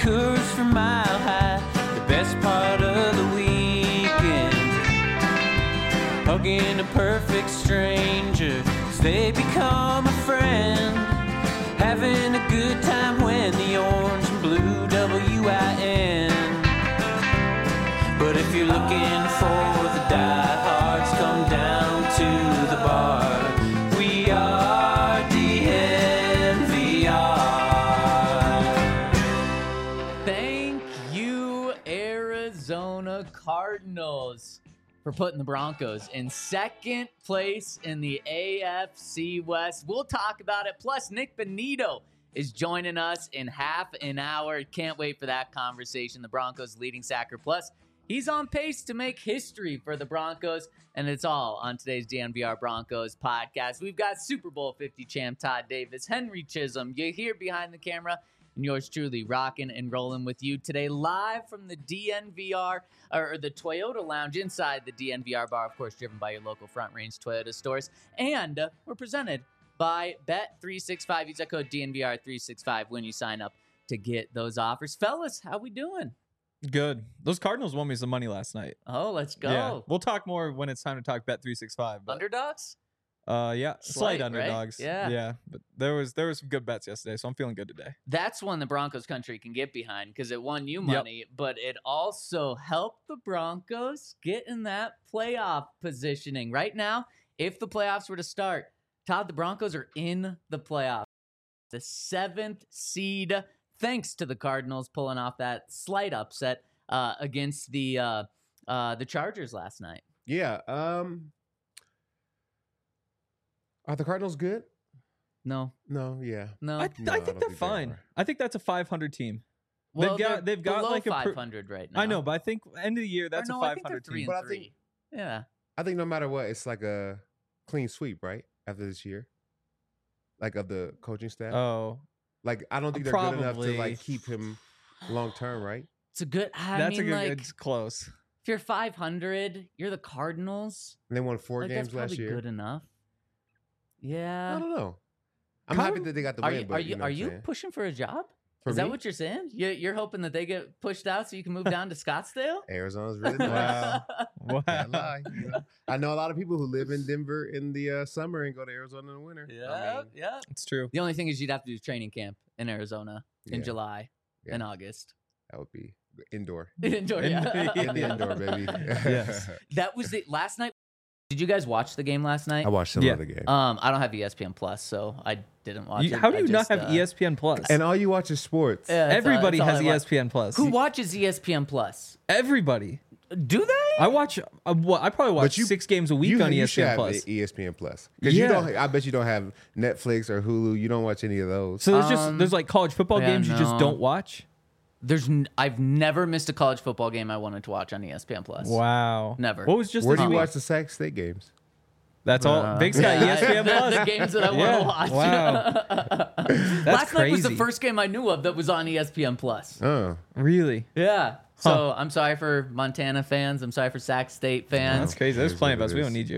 Coors from Mile High, the best part of the weekend. Hugging a perfect stranger as they become a friend. Having a good time when the orange and blue WIN. But if you're looking for the diehards, come down to the bar. We are DNVR. Thank you, Arizona Cardinals, for putting the Broncos in second place in the AFC West. We'll talk about it. Plus, Nick Benito is joining us in half an hour. Can't wait for that conversation. The Broncos leading sacker. Plus, he's on pace to make history for the Broncos, and it's all on today's DNVR Broncos podcast. We've got Super Bowl 50 champ Todd Davis, Henry Chisholm. You're here behind the camera, and yours truly rocking and rolling with you today, live from the DNVR, or the Toyota Lounge inside the DNVR bar, of course, driven by your local Front Range Toyota stores. And we're presented by Bet365. Use that code DNVR365 when you sign up to get those offers. Fellas, how we doing? Good. Those Cardinals won me some money last night. Oh, let's go. Yeah. We'll talk more when it's time to talk Bet365. But, Underdogs? yeah, slight Right? underdogs. Yeah. Yeah, but there was some good bets yesterday, so I'm feeling good today. That's one the Broncos country can get behind because it won you money, but it also helped the Broncos get in that playoff positioning. Right now, if the playoffs were to start, Todd, the Broncos are in the playoffs. The 7th seed, thanks to the Cardinals pulling off that slight upset against the Chargers last night. Yeah. Are the Cardinals good? No. No. Yeah. No. I No, I think don't they're think they fine. are. I think that's a 500 team. Well, they've got below like a 500 right now. I know, but I think end of the year that's Or no, a I think they're 500 3 team. and But I think- 3. Yeah. I think no matter what, it's like a clean sweep, right? After this year, like of the coaching staff. Oh, Like I don't think they're good enough to probably. like keep him long term, right? It's a good. I that's mean, a good. like, It's close. if you're 500, you're the Cardinals. And they won 4 Like, games that's probably last year. good enough. I Yeah. don't know. I'm Card- happy that they got the Are win. you but, are you know what are I'm you saying? pushing for a job? For Is that me? what you're saying? You're hoping that they get pushed out so you can move down to Scottsdale? Arizona's really nice. Wow. Can't lie. You know? I know a lot of people who live in Denver in the summer and go to Arizona in the winter. I mean, yeah. It's true. The only thing is you'd have to do training camp in Arizona in Yeah. July Yeah. and August. that would be indoor. Indoor, yeah. In the indoor, baby. Yes. That was it. Last night. Did you guys watch the game last night? I watched some Yeah. of the game. I don't have ESPN Plus, so I didn't watch it. How do I you not just, have ESPN Plus? And all you watch is sports. yeah, that's all- Everybody that's all has I watch. ESPN Plus. Who watches ESPN Plus? Everybody. Do they? I watch. I probably watch 6 games a week on you should ESPN have Plus. ESPN Plus. Because Yeah. you don't. I bet you don't have Netflix or Hulu. You don't watch any of those. So there's like college football yeah, games you just no. don't watch. I've never missed a college football game I wanted to watch on ESPN Plus. Wow. Never. What was just Where this do you week? watch the Sac State games? That's all. Big's got Yeah, ESPN Plus. the games that I Yeah. want to watch. Wow. That's Last night was the crazy. first game I knew of that was on ESPN Plus. Oh, Really? Yeah. So I'm sorry for Montana fans. I'm sorry for Sac State fans. That's crazy. There's Here's plenty of what us. it We is. don't need you.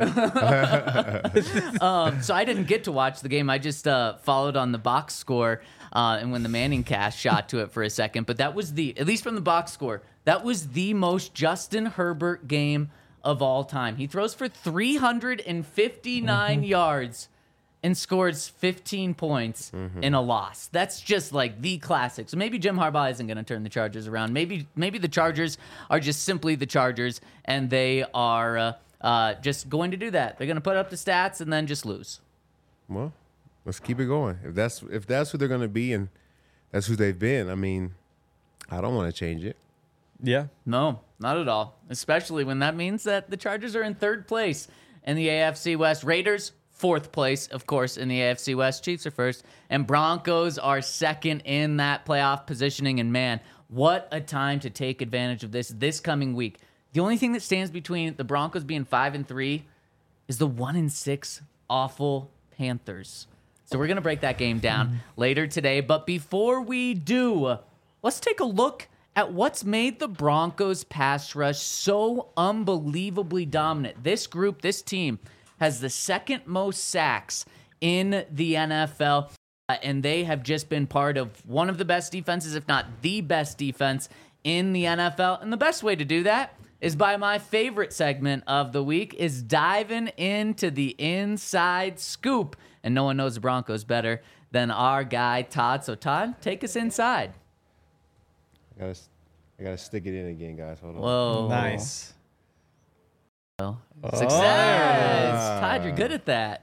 So I didn't get to watch the game. I just followed on the box score and when the Manning cast shot to it for a second. But that was at least from the box score, that was the most Justin Herbert game of all time. He throws for 359 yards and scores 15 points in a loss. That's just like the classic. So maybe Jim Harbaugh isn't going to turn the Chargers around. Maybe the Chargers are just simply the Chargers, and they are just going to do that. They're going to put up the stats and then just lose. well, let's keep it going. If that's who they're going to be and that's who they've been, I mean, I don't want to change it. Yeah. No, not at all. Especially when that means that the Chargers are in 3rd place in the AFC West. Raiders, 4th place, of course, in the AFC West. Chiefs are 1st. And Broncos are 2nd in that playoff positioning. And man, what a time to take advantage of this coming week. The only thing that stands between the Broncos being 5-3 is the 1-6 awful Panthers. So we're going to break that game down later today. But before we do, let's take a look at what's made the Broncos pass rush so unbelievably dominant. This group, this team, has the 2nd most sacks in the NFL. And they have just been part of one of the best defenses, if not the best defense in the NFL. And the best way to do that is by my favorite segment of the week, is diving into the inside scoop. And no one knows the Broncos better than our guy, Todd. So, Todd, take us inside. I gotta stick it in again, guys. Hold on. Whoa. Nice. Well, success. Todd, you're good at that.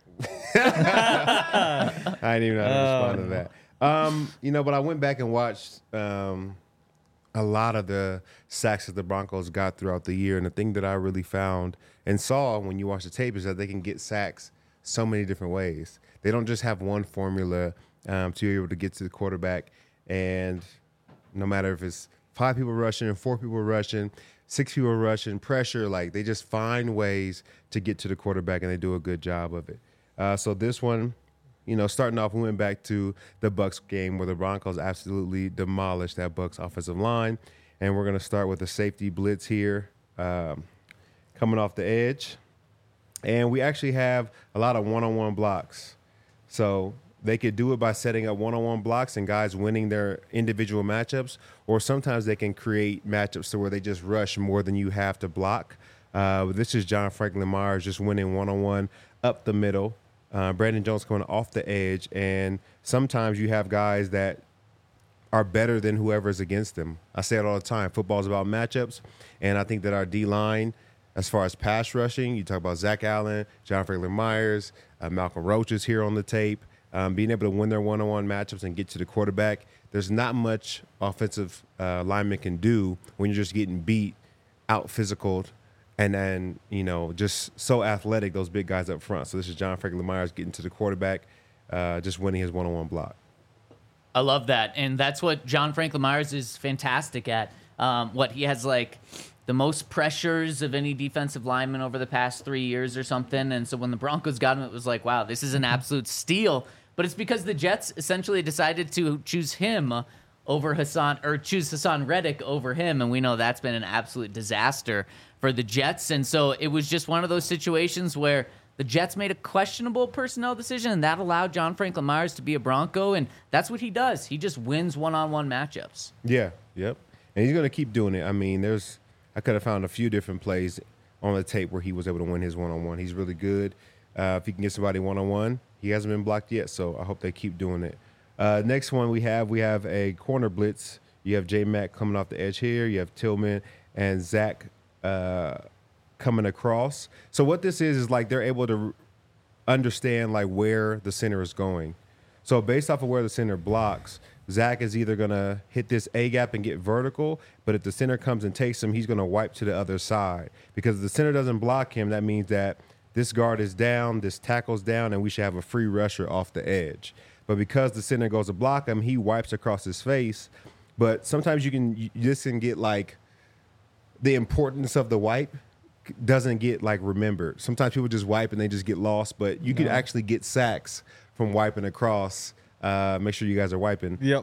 I didn't even know how to respond to that. But I went back and watched a lot of the sacks that the Broncos got throughout the year. And the thing that I really found and saw when you watch the tape is that they can get sacks so many different ways. They don't just have one formula to be able to get to the quarterback. And no matter if it's 5 people rushing, 4 people rushing, 6 people rushing, pressure, like they just find ways to get to the quarterback, and they do a good job of it. So this one, starting off, we went back to the Bucs game where the Broncos absolutely demolished that Bucs offensive line. And we're going to start with a safety blitz here coming off the edge. And we actually have a lot of one-on-one blocks. So they could do it by setting up one-on-one blocks and guys winning their individual matchups, or sometimes they can create matchups to where they just rush more than you have to block. This is John Franklin Myers just winning one-on-one up the middle. Brandon Jones coming off the edge, and sometimes you have guys that are better than whoever's against them. I say it all the time. Football is about matchups, and I think that our D-line, as far as pass rushing, you talk about Zach Allen, John Franklin Myers, Malcolm Roach is here on the tape, being able to win their one-on-one matchups and get to the quarterback. There's not much offensive lineman can do when you're just getting beat, out physical, and then, just so athletic, those big guys up front. So this is John Franklin Myers getting to the quarterback, just winning his one-on-one block. I love that. And that's what John Franklin Myers is fantastic at. He has the most pressures of any defensive lineman over the past 3 years or something. And so when the Broncos got him, it was like, wow, this is an absolute steal. But it's because the Jets essentially decided to choose him over choose Hassan Reddick over him. And we know that's been an absolute disaster for the Jets. And so it was just one of those situations where the Jets made a questionable personnel decision, and that allowed John Franklin Myers to be a Bronco. And that's what he does. He just wins one-on-one matchups. Yeah, yep. And he's going to keep doing it. I mean, I could have found a few different plays on the tape where he was able to win his one-on-one. He's really good. If he can get somebody one-on-one, he hasn't been blocked yet, so I hope they keep doing it. Next one we have a corner blitz. You have J-Mac coming off the edge here. You have Tillman and Zach coming across. So what this is they're able to understand where the center is going. So based off of where the center blocks, Zach is either going to hit this A-gap and get vertical, but if the center comes and takes him, he's going to wipe to the other side. Because if the center doesn't block him, that means that this guard is down, this tackle's down, and we should have a free rusher off the edge. But because the center goes to block him, he wipes across his face. But sometimes you just can get the importance of the wipe doesn't get remembered. Sometimes people just wipe and they just get lost, but you could actually get sacks from wiping across. Make sure you guys are wiping. Yep.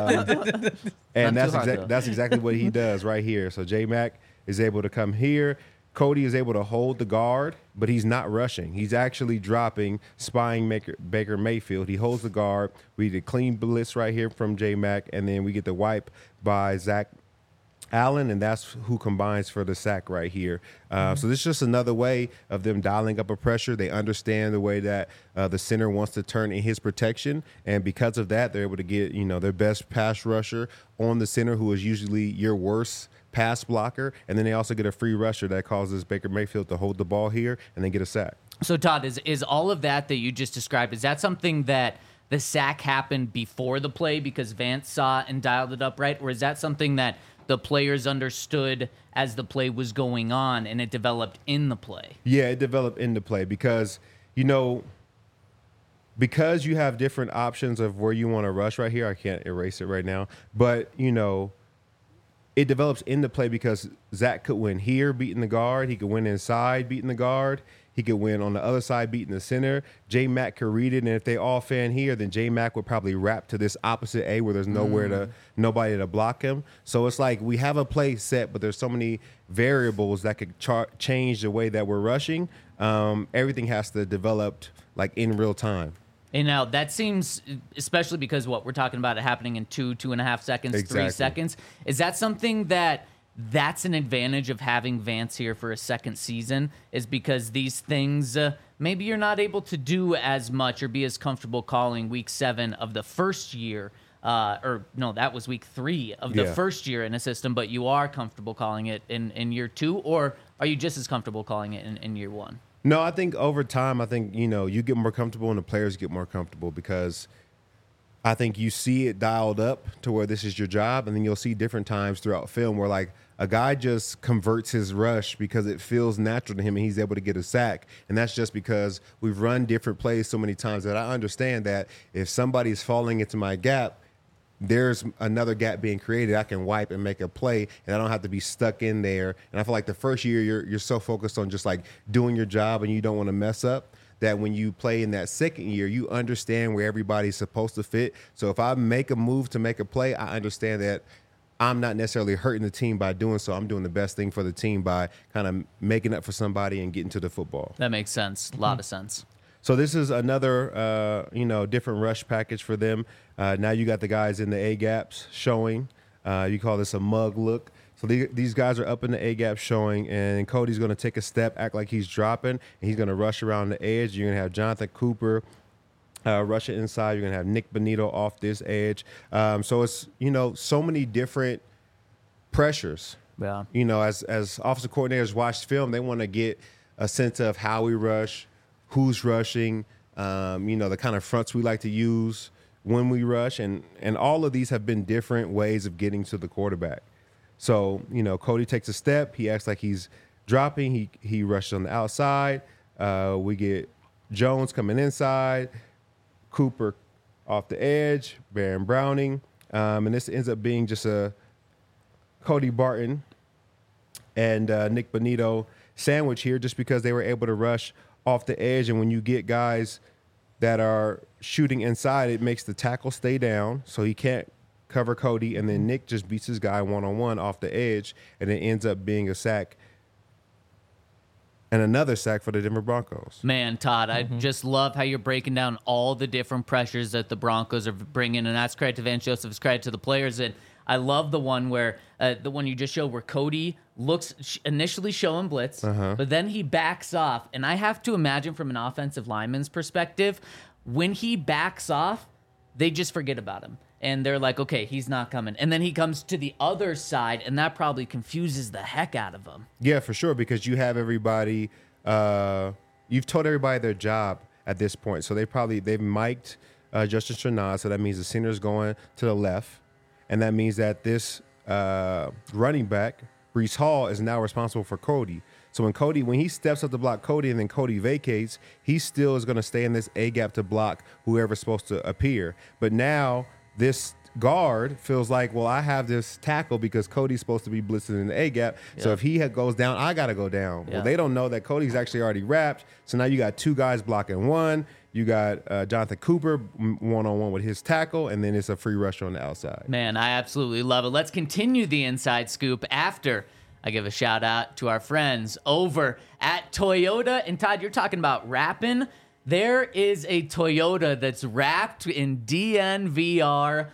And that's exactly what he does right here. So J-Mac is able to come here. Cody is able to hold the guard, but he's not rushing. He's actually dropping, spying Baker Mayfield. He holds the guard. We get a clean blitz right here from J-Mac, and then we get the wipe by Zach Allen, and that's who combines for the sack right here. So this is just another way of them dialing up a pressure. They understand the way that the center wants to turn in his protection, and because of that, they're able to get their best pass rusher on the center, who is usually your worst pass blocker, and then they also get a free rusher that causes Baker Mayfield to hold the ball here and then get a sack. So Todd, is all of that you just described, is that something that the sack happened before the play because Vance saw and dialed it up right, or is that something that the players understood as the play was going on and it developed in the play? Yeah, it developed in the play because because you have different options of where you want to rush right here. I can't erase it right now, but it develops in the play because Zach could win here beating the guard. He could win inside beating the guard. He could win on the other side beating the center. J-Mac could read it, and if they all fan here, then J-Mac would probably wrap to this opposite A where there's nobody to block him. So it's we have a play set, but there's so many variables that could change the way that we're rushing. Everything has to develop in real time. And now that seems, especially because we're talking about it happening in 2.5 seconds, Exactly. 3 seconds. Is that something that's an advantage of having Vance here for a second season? Is because these things maybe you're not able to do as much or be as comfortable calling week 7 of the first year. Or no, that was week 3 of the first year in a system, but you are comfortable calling it in year 2, or are you just as comfortable calling it in year 1? No, I think over time, you get more comfortable and the players get more comfortable because I think you see it dialed up to where this is your job, and then you'll see different times throughout film where like a guy just converts his rush because it feels natural to him and he's able to get a sack. And that's just because we've run different plays so many times that I understand that if somebody's falling into my gap, there's another gap being created. I can wipe and make a play, and I don't have to be stuck in there. And I feel like the first year you're so focused on just like doing your job and you don't want to mess up that when you play in that second year, you understand where everybody's supposed to fit. So if I make a move to make a play, I understand that I'm not necessarily hurting the team by doing so. I'm doing the best thing for the team by kind of making up for somebody and getting to the football. That makes sense. A lot of sense. So this is another, different rush package for them. Now you got the guys in the A gaps showing. You call this a mug look. So these guys are up in the A gap showing, and Cody's going to take a step, act like he's dropping, and he's going to rush around the edge. You're going to have Jonathan Cooper rushing inside. You're going to have Nick Benito off this edge. So it's, so many different pressures. Yeah. As offensive coordinators watch film, they want to get a sense of how we rush, who's rushing, the kind of fronts we like to use when we rush. And all of these have been different ways of getting to the quarterback. So, Cody takes a step. He acts like he's dropping. He rushes on the outside. We get Jones coming inside, Cooper off the edge, Baron Browning. And this ends up being just a Cody Barton and Nick Benito sandwich here just because they were able to rush off the edge. And when you get guys that are shooting inside, it makes the tackle stay down so he can't cover Cody, and then Nick just beats his guy one-on-one off the edge, and it ends up being a sack and another sack for the Denver Broncos. Man, Todd, I just love how you're breaking down all the different pressures that the Broncos are bringing, and that's credit to Vance Joseph, it's credit to the players. And I love the one where the one you just showed where Cody looks initially showing blitz, but then he backs off. And I have to imagine from an offensive lineman's perspective, when he backs off, they just forget about him. And they're like, okay, he's not coming. And then he comes to the other side, and that probably confuses the heck out of them. Yeah, for sure, because you have everybody, you've told everybody their job at this point. So they've mic'd Justin Strnad, so that means the center's going to the left. And that means that this running back, Breece Hall, is now responsible for Cody. So when he steps up to block Cody and then Cody vacates, he still is going to stay in this A gap to block whoever's supposed to appear. But now this guard feels like, well, I have this tackle because Cody's supposed to be blitzing in the A gap. Yeah. So if he goes down, I got to go down. Yeah. Well, they don't know that Cody's actually already wrapped. So now you got two guys blocking one. You got Jonathan Cooper one-on-one with his tackle, and then it's a free rusher on the outside. Man, I absolutely love it. Let's continue the inside scoop after I give a shout out to our friends over at Toyota. And Todd, you're talking about wrapping. There is a Toyota that's wrapped in DNVR.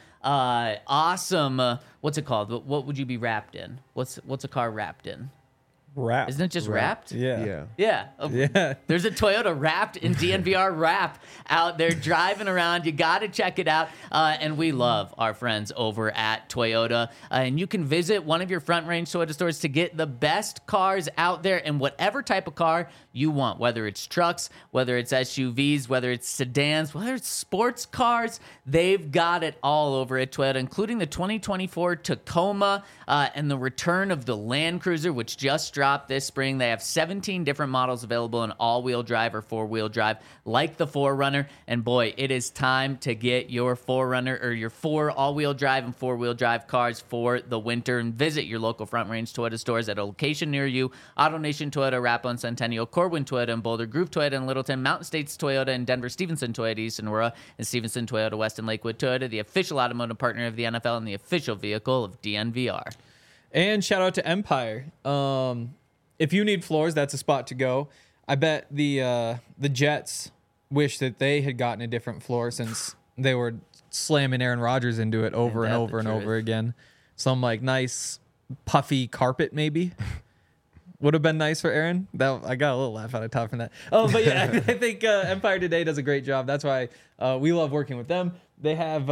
Awesome. What's it called? What would you be wrapped in? What's a car wrapped in? Wrapped. Isn't it just wrapped? Yeah. Yeah. There's a Toyota wrapped in DNVR wrap out there driving around. You got to check it out. And we love our friends over at Toyota. And you can visit one of your Front Range Toyota stores to get the best cars out there and whatever type of car you want, whether it's trucks, whether it's SUVs, whether it's sedans, whether it's sports cars. They've got it all over at Toyota, including the 2024 Tacoma and the return of the Land Cruiser, which just dropped this spring. They have 17 different models available in all-wheel drive or four-wheel drive, like the 4Runner. And boy, it is time to get your 4Runner or your 4 all-wheel drive and four-wheel drive cars for the winter. And visit your local Front Range Toyota stores at a location near you. AutoNation Toyota, Arapahoe and Centennial, Corwin Toyota in Boulder, Groove Toyota in Littleton, Mountain States Toyota in Denver, Stevenson Toyota East in Aurora, and Stevenson Toyota West in Lakewood. Toyota, the official automotive partner of the NFL and the official vehicle of DNVR. And shout out to Empire. If you need floors, that's a spot to go. I bet the Jets wish that they had gotten a different floor since they were slamming Aaron Rodgers into it over and over and over again. Some like nice puffy carpet maybe would have been nice for Aaron. That I got a little laugh out of top from that. Oh, but yeah, I think Empire Today does a great job. That's why we love working with them. They have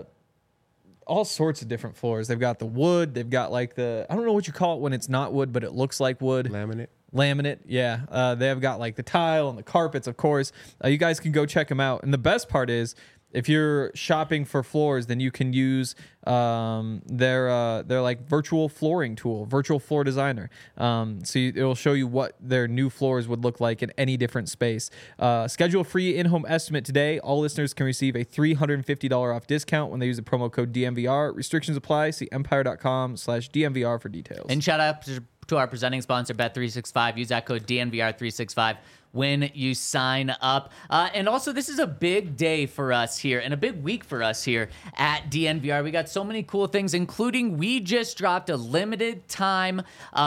all sorts of different floors. They've got the wood. They've got like I don't know what you call it when it's not wood, but it looks like wood. Laminate, yeah. They have got like the tile and the carpets, of course. You guys can go check them out. And the best part is, if you're shopping for floors, then you can use their like virtual flooring tool, Virtual Floor Designer. It will show you what their new floors would look like in any different space. Schedule a free in-home estimate today. All listeners can receive a $350 off discount when they use the promo code DNVR. Restrictions apply. See empire.com/DNVR for details. And shout out to our presenting sponsor, Bet365. Use that code DNVR365 when you sign up. And also, this is a big day for us here and a big week for us here at DNVR. We got so many cool things, including we just dropped a limited time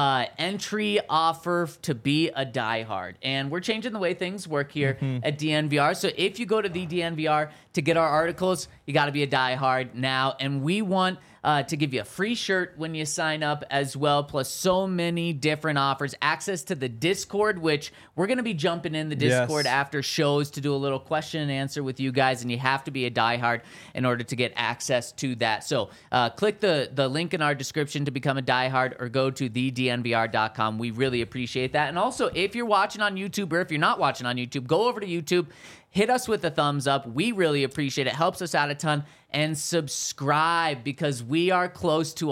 entry offer to be a diehard. And we're changing the way things work here at DNVR. So if you go to the DNVR to get our articles, you got to be a diehard now. And we want to give you a free shirt when you sign up as well, plus so many different offers. Access to the Discord, which we're going to be jumping in the Discord after shows to do a little question and answer with you guys, and you have to be a diehard in order to get access to that. So click the link in our description to become a diehard, or go to thednvr.com. We really appreciate that. And also, if you're watching on YouTube, or if you're not watching on YouTube, go over to YouTube. Hit us with a thumbs up. We really appreciate it. Helps us out a ton. And subscribe, because we are close to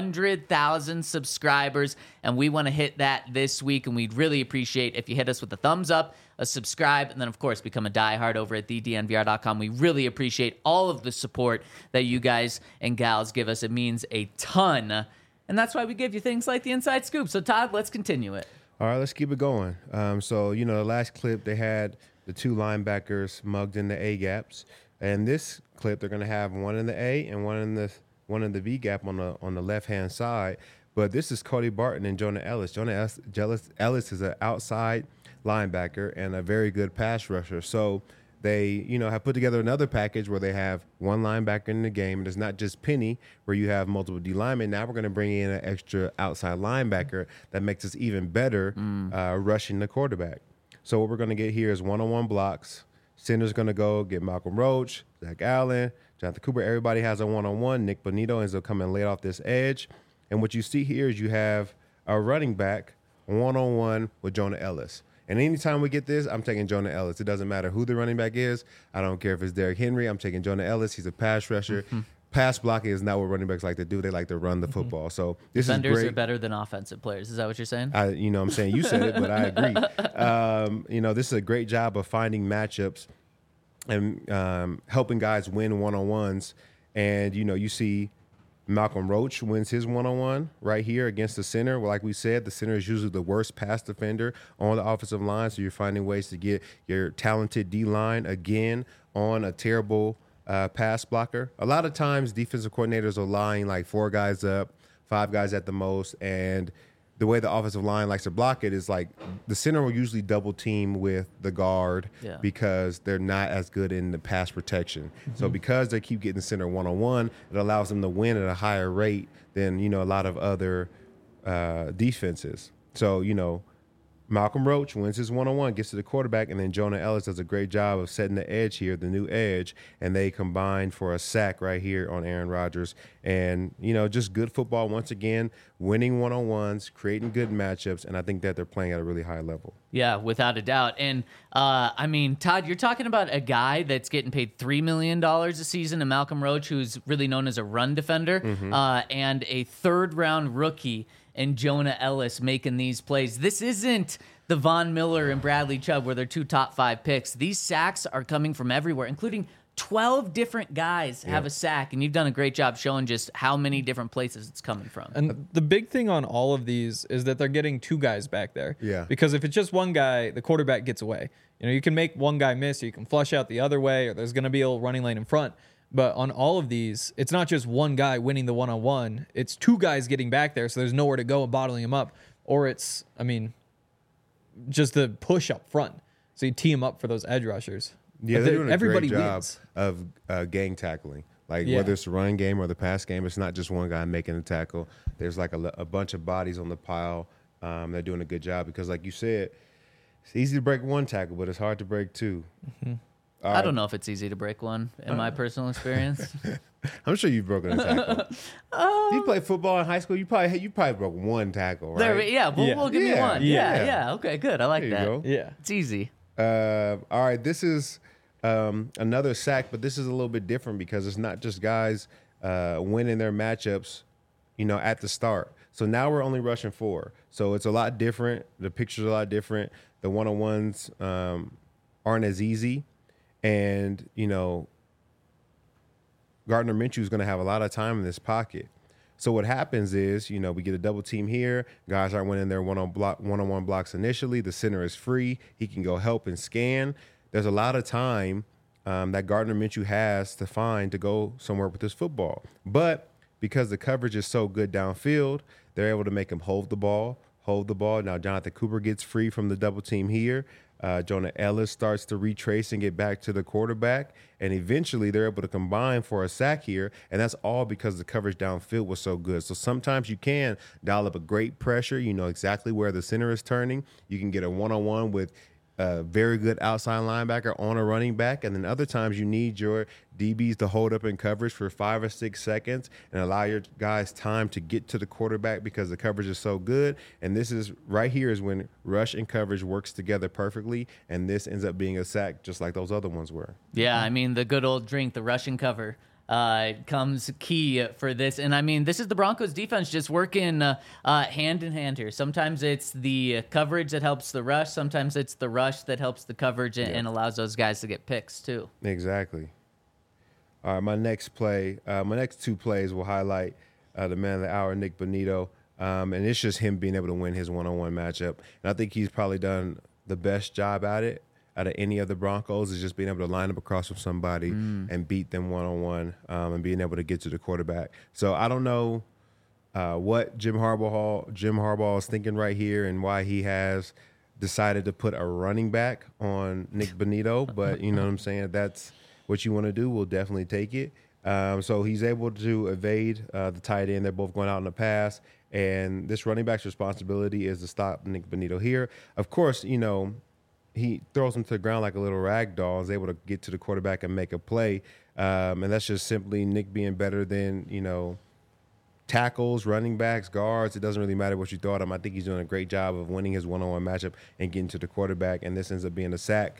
100,000 subscribers, and we want to hit that this week. And we'd really appreciate if you hit us with a thumbs up, a subscribe, and then, of course, become a diehard over at thednvr.com. We really appreciate all of the support that you guys and gals give us. It means a ton. And that's why we give you things like the Inside Scoop. So, Todd, let's continue it. All right, let's keep it going. The last clip, they had the two linebackers mugged in the A gaps. And this clip, they're going to have one in the A and one in the V gap on the left-hand side. But this is Cody Barton and Jonah Ellis. Jonah Ellis is an outside linebacker and a very good pass rusher. So they, have put together another package where they have one linebacker in the game. And it's not just Penny, where you have multiple D linemen. Now we're going to bring in an extra outside linebacker that makes us even better rushing the quarterback. So what we're going to get here is one-on-one blocks. Center's going to go get Malcolm Roach, Zach Allen, Jonathan Cooper. Everybody has a one-on-one. Nick Bonito ends up coming late off this edge. And what you see here is you have a running back one-on-one with Jonah Ellis. And anytime we get this, I'm taking Jonah Ellis. It doesn't matter who the running back is. I don't care if it's Derrick Henry. I'm taking Jonah Ellis. He's a pass rusher. Pass blocking is not what running backs like to do. They like to run the football. So this is great. Defenders are better than offensive players. Is that what you're saying? I'm saying you said it, but I agree. This is a great job of finding matchups and helping guys win one-on-ones. And, you see Malcolm Roach wins his one-on-one right here against the center. Well, like we said, the center is usually the worst pass defender on the offensive line. So you're finding ways to get your talented D-line again on a terrible pass blocker. A lot of times defensive coordinators are lining like 4 guys up, 5 guys at the most, and the way the offensive line likes to block it is like the center will usually double team with the guard because they're not as good in the pass protection. So because they keep getting the center one-on-one, it allows them to win at a higher rate than, a lot of other defenses. So, Malcolm Roach wins his one-on-one, gets to the quarterback, and then Jonah Ellis does a great job of setting the edge here, the new edge, and they combine for a sack right here on Aaron Rodgers. And, just good football once again, winning one-on-ones, creating good matchups, and I think that they're playing at a really high level. Yeah, without a doubt. And, Todd, you're talking about a guy that's getting paid $3 million a season, and Malcolm Roach, who's really known as a run defender, and a third-round rookie and Jonah Ellis making these plays. This isn't the Von Miller and Bradley Chubb where they're 2 top 5 picks. These sacks are coming from everywhere, including 12 different guys have a sack, and you've done a great job showing just how many different places it's coming from. And the big thing on all of these is that they're getting 2 guys back there. Yeah. Because if it's just one guy, the quarterback gets away. You can make one guy miss, or you can flush out the other way, or there's going to be a little running lane in front. But on all of these, it's not just one guy winning the one-on-one. It's 2 guys getting back there, so there's nowhere to go and bottling him up. Or it's, just the push up front. So you tee him up for those edge rushers. Yeah, they're doing a Everybody great job wins. of gang tackling. Like Yeah. whether it's the running game or the pass game, it's not just one guy making the tackle. There's like a bunch of bodies on the pile. They're doing a good job because, like you said, it's easy to break one tackle, but it's hard to break two. I don't know if it's easy to break one in my personal experience. I'm sure you've broken a tackle. You played football in high school. You probably broke one tackle, right? There, yeah, we'll give me Yeah, one. yeah. Yeah. Okay, good. I like There you that. go. Yeah. It's easy. All right, this is another sack, but this is a little bit different because it's not just guys winning their matchups, at the start. So now we're only rushing 4. So it's a lot different. The picture's a lot different. The one-on-ones aren't as easy. And, Gardner Minshew is going to have a lot of time in this pocket. So what happens is, we get a double team here. Guys aren't winning their one-on-one blocks initially. The center is free. He can go help and scan. There's a lot of time that Gardner Minshew has to find to go somewhere with this football. But because the coverage is so good downfield, they're able to make him hold the ball. Now Jonathan Cooper gets free from the double team here. Jonah Ellis starts to retrace and get back to the quarterback. And eventually they're able to combine for a sack here. And that's all because the coverage downfield was so good. So sometimes you can dial up a great pressure. You know exactly where the center is turning. You can get a one-on-one with a very good outside linebacker on a running back. And then other times you need your DBs to hold up in coverage for 5 or 6 seconds and allow your guys time to get to the quarterback because the coverage is so good. And this is right here is when rush and coverage works together perfectly. And this ends up being a sack just like those other ones were. Yeah, I mean, the good old drink, the Russian cover, comes key for this. And I mean, this is the Broncos defense just working hand in hand here. Sometimes it's the coverage that helps the rush. Sometimes it's the rush that helps the coverage and allows those guys to get picks too. Exactly. All right, my next 2 plays will highlight the man of the hour, Nick Bonito. And it's just him being able to win his one-on-one matchup. And I think he's probably done the best job at it out of any of the Broncos, is just being able to line up across from somebody and beat them one-on-one and being able to get to the quarterback. So I don't know what Jim Harbaugh is thinking right here and why he has decided to put a running back on Nick Bonito. But you know what I'm saying? That's what you want to do. We'll definitely take it. So he's able to evade the tight end. They're both going out in the pass. And this running back's responsibility is to stop Nick Bonito here. Of course, he throws him to the ground like a little rag doll, is able to get to the quarterback and make a play. And that's just simply Nick being better than, tackles, running backs, guards. It doesn't really matter what you throw at him. I think he's doing a great job of winning his one-on-one matchup and getting to the quarterback. And this ends up being a sack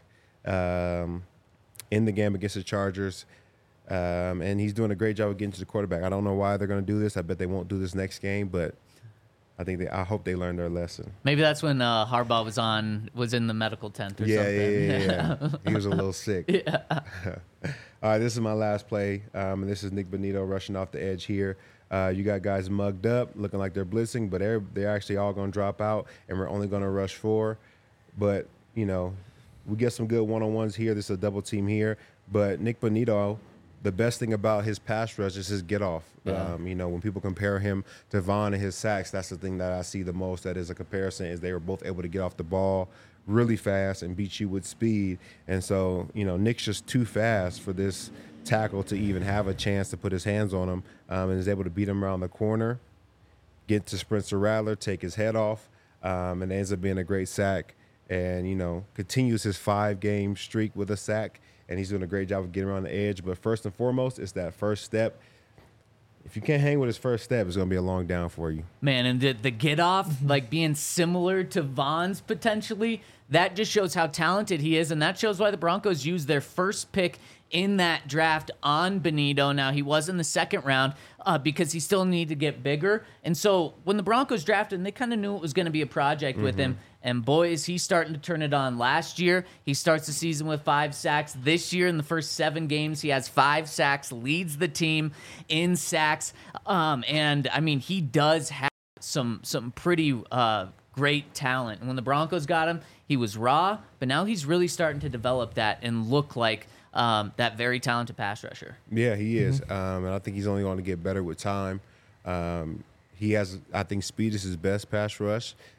in the game against the Chargers. And he's doing a great job of getting to the quarterback. I don't know why they're going to do this. I bet they won't do this next game, but I hope they learned their lesson. Maybe that's when Harbaugh was in the medical tent or something. Yeah. He was a little sick. Yeah. All right, this is my last play. And this is Nick Bonito rushing off the edge here. You got guys mugged up, looking like they're blitzing, but they're actually all going to drop out, and we're only going to rush 4. But, we get some good one-on-ones here. This is a double team here. But Nick Bonito, the best thing about his pass rush is his get off. Yeah. When people compare him to Vaughn and his sacks, that's the thing that I see the most. That is a comparison, is they were both able to get off the ball really fast and beat you with speed. And so, Nick's just too fast for this tackle to even have a chance to put his hands on him, and is able to beat him around the corner, get to Spencer Rattler, take his head off, and it ends up being a great sack. And, continues his 5-game streak with a sack. And he's doing a great job of getting around the edge. But first and foremost, it's that first step. If you can't hang with his first step, it's going to be a long down for you. Man, and the get off, like being similar to Vaughn's potentially, that just shows how talented he is. And that shows why the Broncos used their first pick in that draft on Bonito. Now, he was in the second round because he still needed to get bigger. And so when the Broncos drafted him, they kind of knew it was going to be a project with him. And boys, he's starting to turn it on. Last year, he starts the season with 5 sacks. This year, in the first 7 games, he has 5 sacks, leads the team in sacks. And, I mean, he does have some pretty great talent. And when the Broncos got him, he was raw, but now he's really starting to develop that and look like that very talented pass rusher. Yeah, he is. And I think he's only going to get better with time. He has, I think, speed is his best pass rush.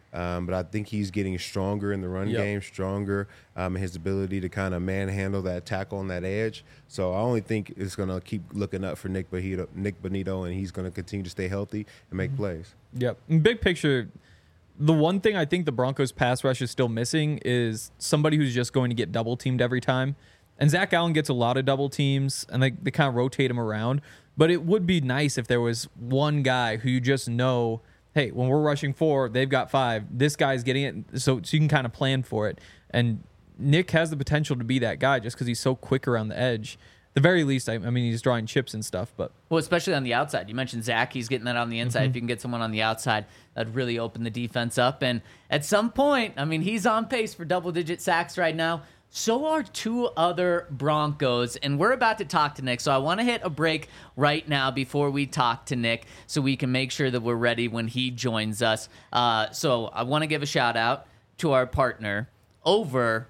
But I think he's getting stronger in the run game, stronger in his ability to kind of manhandle that tackle on that edge. So I only think it's going to keep looking up for Nick Bonitto, and he's going to continue to stay healthy and make plays. Yep. Big picture, the one thing I think the Broncos pass rush is still missing is somebody who's just going to get double teamed every time. And Zach Allen gets a lot of double teams, and they kind of rotate him around. But it would be nice if there was one guy who you just know, hey, when we're rushing 4, they've got 5. This guy's getting it, so you can kind of plan for it. And Nick has the potential to be that guy just because he's so quick around the edge. At the very least, I mean, he's drawing chips and stuff. But well, especially on the outside. You mentioned Zach. He's getting that on the inside. If you can get someone on the outside, that'd really open the defense up. And at some point, I mean, he's on pace for double-digit sacks right now. So are 2 other Broncos, and we're about to talk to Nick. So I want to hit a break right now before we talk to Nick so we can make sure that we're ready when he joins us. So I want to give a shout-out to our partner over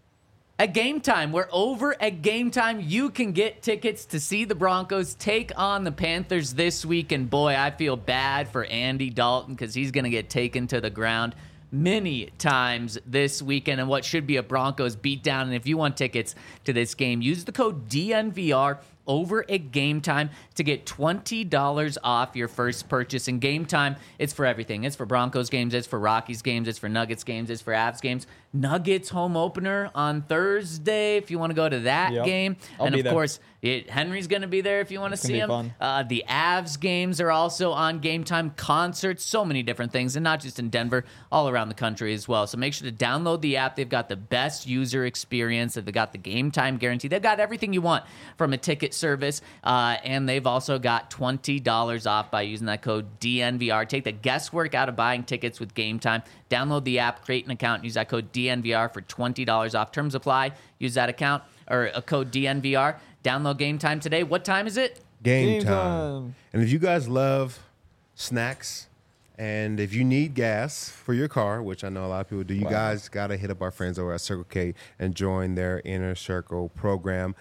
at Game Time. We're over at Game Time. You can get tickets to see the Broncos take on the Panthers this week, and boy, I feel bad for Andy Dalton because he's going to get taken to the ground many times this weekend in what should be a Broncos beatdown. And if you want tickets to this game, use the code DNVR over at Game Time to get $20 off your first purchase. And Game Time, it's for everything. It's for Broncos games, it's for Rockies games, it's for Nuggets games, it's for Avs games. Nuggets home opener on Thursday if you want to go to that game. And of course, Henry's going to be there if you want to see him. The Avs games are also on Game Time. Concerts, so many different things, and not just in Denver, all around the country as well. So make sure to download the app. They've got the best user experience. They've got the Game Time guarantee. They've got everything you want from a ticket service, and they've also got $20 off by using that code DNVR. Take the guesswork out of buying tickets with Game Time. Download the app, create an account, and use that code DNVR for $20 off. Terms apply. Use that account or a code DNVR. Download Game Time today. What time is it? Game time. And if you guys love snacks and if you need gas for your car, which I know a lot of people do, you guys got to hit up our friends over at Circle K and join their Inner Circle program.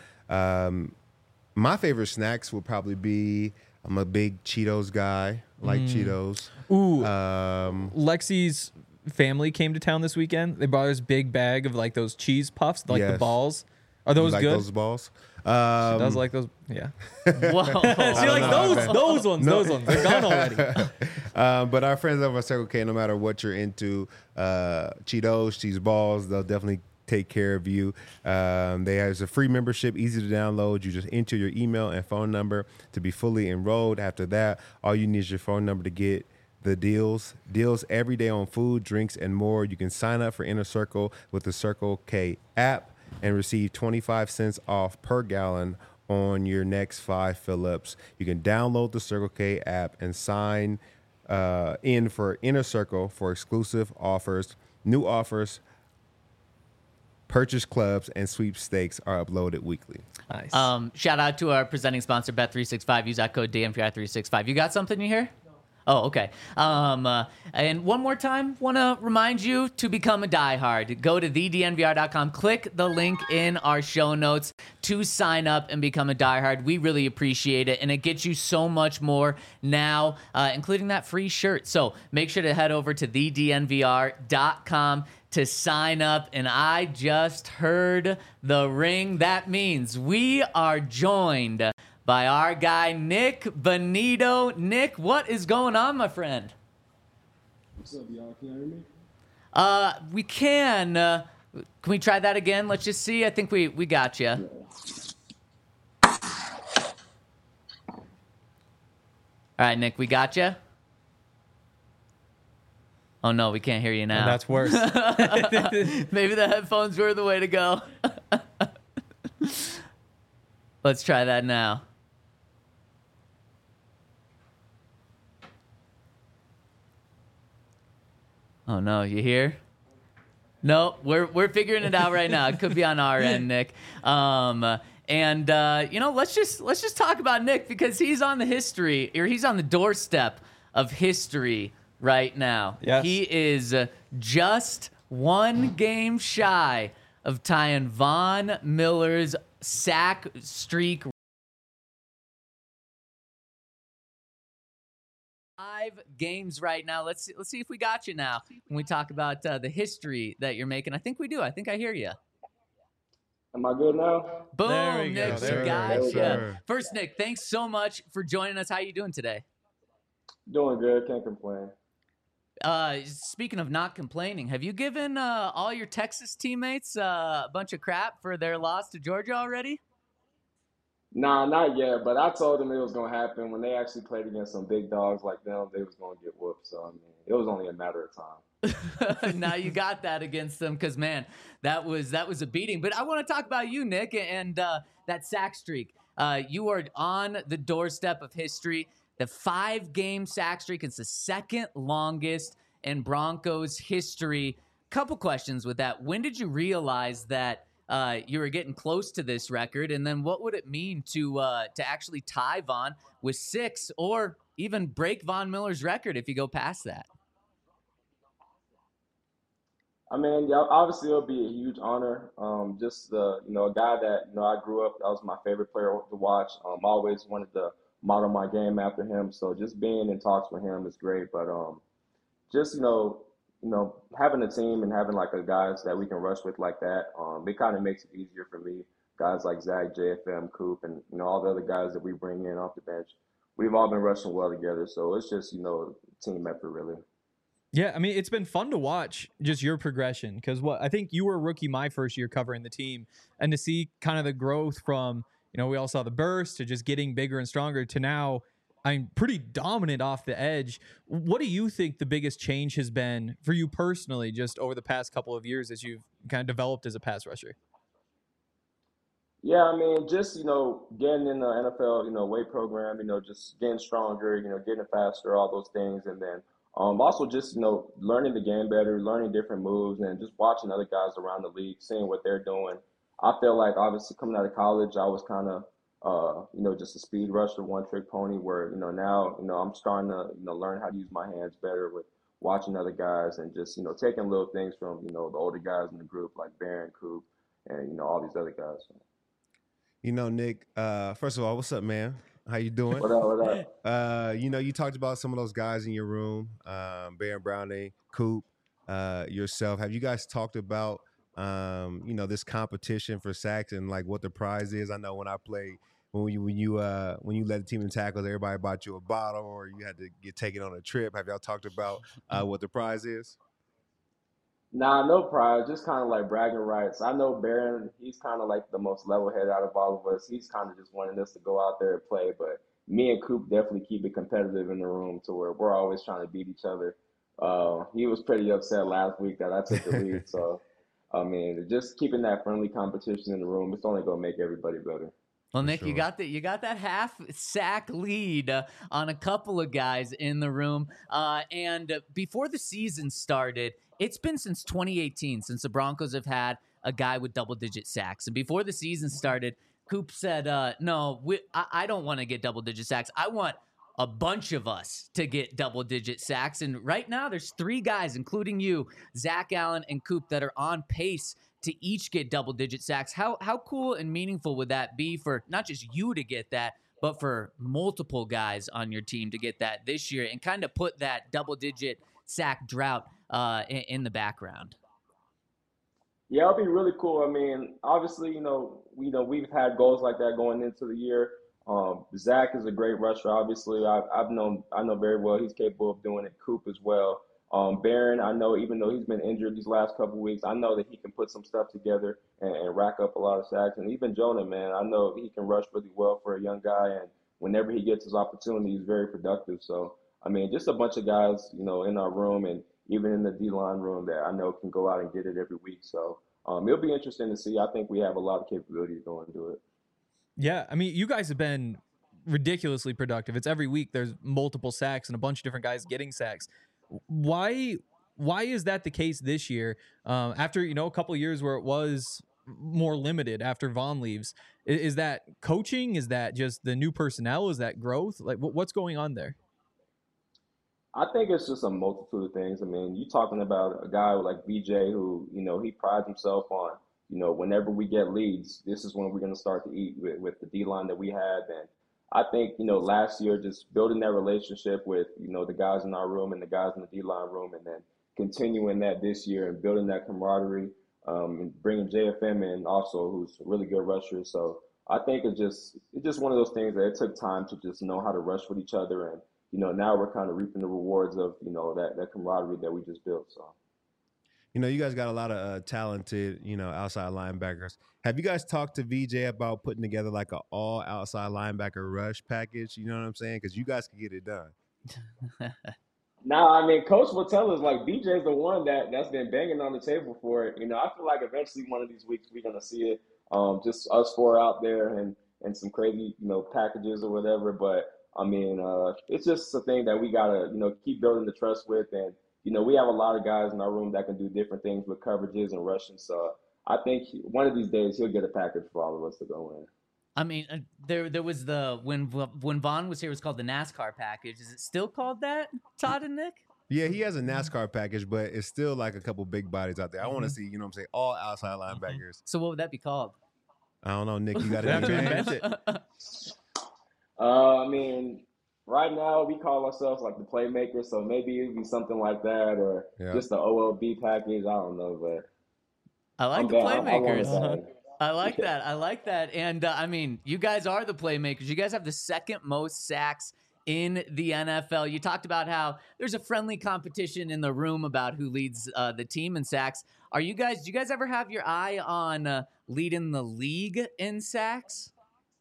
My favorite snacks would probably be, I'm a big Cheetos guy, like Cheetos. Ooh. Lexi's family came to town this weekend. They brought this big bag of like those cheese puffs, like the balls. Are those like good? Those balls? She does like those. Yeah. Whoa. She like those ones. Those ones. They're gone already. But our friends over at Circle K, no matter what you're into, Cheetos, cheese balls, they'll definitely take care of you. They have a free membership, easy to download. You just enter your email and phone number to be fully enrolled. After that, all you need is your phone number to get the deals every day on food, drinks, and more. You can sign up for Inner Circle with the Circle K app and receive 25 cents off per gallon on your next 5 fill-ups. You can download the Circle K app and sign in for Inner Circle for exclusive offers. New offers, purchase clubs, and sweepstakes are uploaded weekly. Nice. Shout out to our presenting sponsor, Bet365. Use that code DNVR365. You got something you hear? Oh, okay. And one more time, want to remind you to become a diehard. Go to thednvr.com, click the link in our show notes to sign up and become a diehard. We really appreciate it, and it gets you so much more now, including that free shirt. So make sure to head over to thednvr.com to sign up. And I just heard the ring. That means we are joined by our guy, Nick Bonitto. Nick, what is going on, my friend? What's up, y'all? Can you hear me? We can. Can we try that again? Let's just see. I think we got you. All right, Nick, we got you. Oh, no, we can't hear you now. And that's worse. Maybe the headphones were the way to go. Let's try that now. Oh, no, you hear? No, we're figuring it out right now. It could be on our end, Nick. Let's just talk about Nick because he's on the doorstep of history right now. Yes. He is just one game shy of tying Von Miller's sack streak. 5 games right now. Let's see if we got you now when we talk about the history that you're making. I think we do. I think I hear you. Am I good now? Boom, There we Nick, go. we There we got go. you. Sir. First, Nick, thanks so much for joining us. How you doing today? Doing good. Can't complain. Speaking of not complaining, have you given all your Texas teammates a bunch of crap for their loss to Georgia already? Nah, not yet. But I told them it was gonna happen when they actually played against some big dogs like them. They was gonna get whooped. So I mean, it was only a matter of time. Now you got that against them because, man, that was a beating. But I want to talk about you, Nick, and that sack streak. You are on the doorstep of history. The 5-game sack streak is the second longest in Broncos history. Couple questions with that. When did you realize that you were getting close to this record? And then what would it mean to actually tie Von with 6 or even break Von Miller's record if you go past that? I mean, yeah, obviously it'll be a huge honor. Just a guy that I grew up. That was my favorite player to watch. I always wanted to model my game after him. So just being in talks with him is great. But just having a team and having like a guys that we can rush with like that, it kind of makes it easier for me. Guys like Zach, JFM, Coop, and all the other guys that we bring in off the bench. We've all been rushing well together. So it's just team effort really. Yeah, I mean, it's been fun to watch just your progression because I think you were a rookie my first year covering the team, and to see kind of the growth from, we all saw the burst to just getting bigger and stronger to now, I'm pretty dominant off the edge. What do you think the biggest change has been for you personally just over the past couple of years as you've kind of developed as a pass rusher? Yeah, I mean, just, getting in the NFL, weight program, just getting stronger, getting faster, all those things. And then also just, learning the game better, learning different moves, and just watching other guys around the league, seeing what they're doing. I feel like, obviously, coming out of college, I was kind of, just a speed rusher, one-trick pony, where, now, I'm starting to, learn how to use my hands better with watching other guys and just, taking little things from, the older guys in the group, like Barron, Coop, and, all these other guys. Nick, first of all, what's up, man? How you doing? What up? You talked about some of those guys in your room, Baron Browning, Coop, yourself. Have you guys talked about, this competition for sacks and like what the prize is? I know when I played, when you led the team in tackles, everybody bought you a bottle or you had to get taken on a trip. Have y'all talked about what the prize is? Nah, no prize, just kind of like bragging rights. I know Barron, he's kind of like the most level-headed out of all of us. He's kind of just wanting us to go out there and play, but me and Coop definitely keep it competitive in the room to where we're always trying to beat each other. He was pretty upset last week that I took the lead, so, I mean, just keeping that friendly competition in the room, it's only going to make everybody better. Well, Nick, sure. you got that half sack lead on a couple of guys in the room. And before the season started, it's been since 2018 since the Broncos have had a guy with double-digit sacks. And before the season started, Coop said, no, I don't want to get double-digit sacks. I want a bunch of us to get double-digit sacks. And right now there's 3 guys, including you, Zach Allen and Coop, that are on pace to each get double-digit sacks. How cool and meaningful would that be for not just you to get that, but for multiple guys on your team to get that this year and kind of put that double-digit sack drought in the background? Yeah, it'll be really cool. I mean, obviously, we've had goals like that going into the year. Zach is a great rusher. Obviously, I know very well he's capable of doing it. Coop as well. Barron, I know even though he's been injured these last couple of weeks, I know that he can put some stuff together and rack up a lot of sacks. And even Jonah, man, I know he can rush really well for a young guy. And whenever he gets his opportunity, he's very productive. So, I mean, just a bunch of guys, in our room and even in the D-line room that I know can go out and get it every week. So it'll be interesting to see. I think we have a lot of capability to go and do it. Yeah, I mean, you guys have been ridiculously productive. It's every week there's multiple sacks and a bunch of different guys getting sacks. Why is that the case this year? After, a couple of years where it was more limited after Von leaves, is that coaching? Is that just the new personnel? Is that growth? Like, what's going on there? I think it's just a multitude of things. I mean, you're talking about a guy like BJ who, he prides himself on, whenever we get leads, this is when we're going to start to eat with the D-line that we have. And I think, last year just building that relationship with, the guys in our room and the guys in the D-line room, and then continuing that this year and building that camaraderie, and bringing JFM in also, who's a really good rusher. So I think it's just one of those things that it took time to just know how to rush with each other. And, now we're kind of reaping the rewards of, that camaraderie that we just built. So. You guys got a lot of talented, outside linebackers. Have you guys talked to VJ about putting together like an all outside linebacker rush package? You know what I'm saying? Because you guys can get it done. Now, I mean, Coach will tell us like BJ's the one that's been banging on the table for it. I feel like eventually one of these weeks we're gonna see it. Just us four out there and some crazy, packages or whatever. But I mean, it's just a thing that we gotta, keep building the trust with. And we have a lot of guys in our room that can do different things with coverages and rushing. So I think one of these days he'll get a package for all of us to go in. I mean, there was when Vaughn was here, it was called the NASCAR package. Is it still called that, Todd and Nick? Yeah, he has a NASCAR package, but it's still like a couple big bodies out there. I want to see, all outside linebackers. So what would that be called? I don't know, Nick. You got to invent it. I mean, right now we call ourselves like the playmakers, so maybe it'd be something like that, or just the OLB package. I don't know, but I like the playmakers. I like that. I like that. And I mean, you guys are the playmakers. You guys have the second most sacks in the NFL. You talked about how there's a friendly competition in the room about who leads the team in sacks. Do you guys ever have your eye on leading the league in sacks?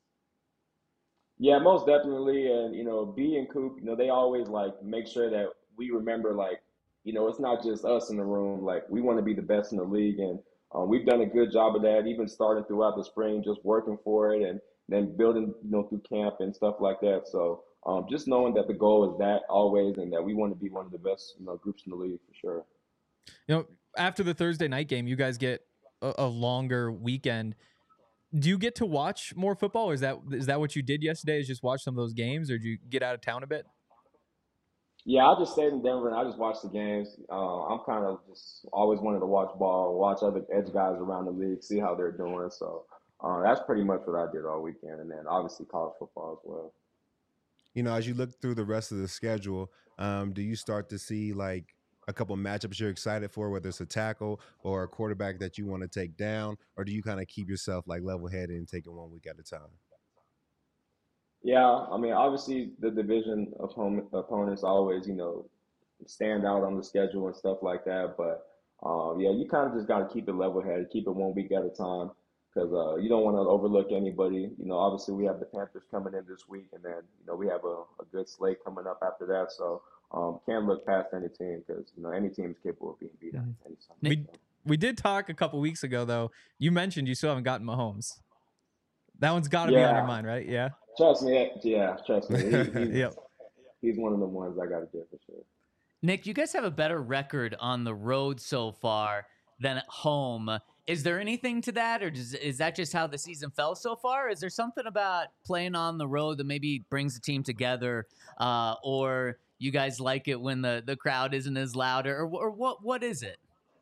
Yeah, most definitely. And, B and Coop, they always like make sure that we remember, like, it's not just us in the room. Like, we want to be the best in the league. And we've done a good job of that, even starting throughout the spring, just working for it and then building, through camp and stuff like that. So just knowing that the goal is that always, and that we want to be one of the best, groups in the league for sure. After the Thursday night game, you guys get a longer weekend. Do you get to watch more football, or is that what you did yesterday, is just watch some of those games, or did you get out of town a bit? Yeah, I just stayed in Denver and I just watched the games. I'm kind of just always wanted to watch ball, watch other edge guys around the league, see how they're doing. So that's pretty much what I did all weekend. And then obviously college football as well. As you look through the rest of the schedule, do you start to see like a couple of matchups you're excited for, whether it's a tackle or a quarterback that you want to take down, or do you kind of keep yourself like level-headed and take it one week at a time? Yeah, I mean, obviously the division opponents always, stand out on the schedule and stuff like that. But yeah, you kind of just got to keep it level-headed, keep it 1 week at a time, because you don't want to overlook anybody. Obviously we have the Panthers coming in this week, and then we have a good slate coming up after that. So can't look past any team, because any team is capable of being beat at any time. We did talk a couple weeks ago, though. You mentioned you still haven't gotten Mahomes. That one's got to be on your mind, right? Yeah. Trust me. Yep. He's one of the ones I got to get for sure. Nick, you guys have a better record on the road so far than at home. Is there anything to that, or is that just how the season fell so far? Is there something about playing on the road that maybe brings the team together, or you guys like it when the crowd isn't as loud, or what is it?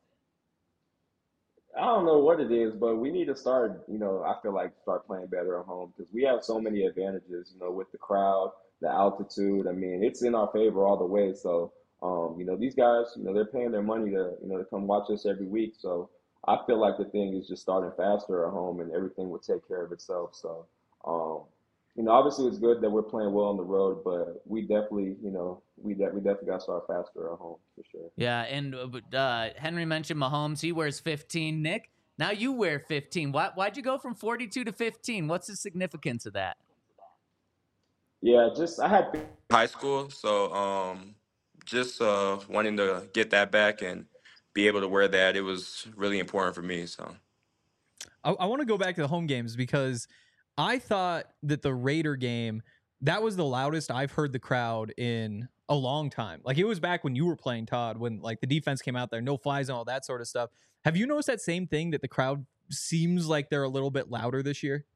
I don't know what it is, but we need to start, I feel like start playing better at home, because we have so many advantages, with the crowd, the altitude. I mean, it's in our favor all the way. So, these guys, they're paying their money to come watch us every week. So I feel like the thing is just starting faster at home, and everything will take care of itself. So, obviously it's good that we're playing well on the road, but we definitely, we definitely got to start faster at home for sure. Yeah, and Henry mentioned Mahomes. He wears 15. Nick, now you wear 15. Why'd you go from 42 to 15? What's the significance of that? Yeah, I had high school, so just wanting to get that back and be able to wear that, it was really important for me. So I want to go back to the home games, because I thought that the Raider game, that was the loudest I've heard the crowd in a long time. Like, it was back when you were playing, Todd, when like the defense came out there, no fly zone, all that sort of stuff. Have you noticed that same thing, that the crowd seems like they're a little bit louder this year?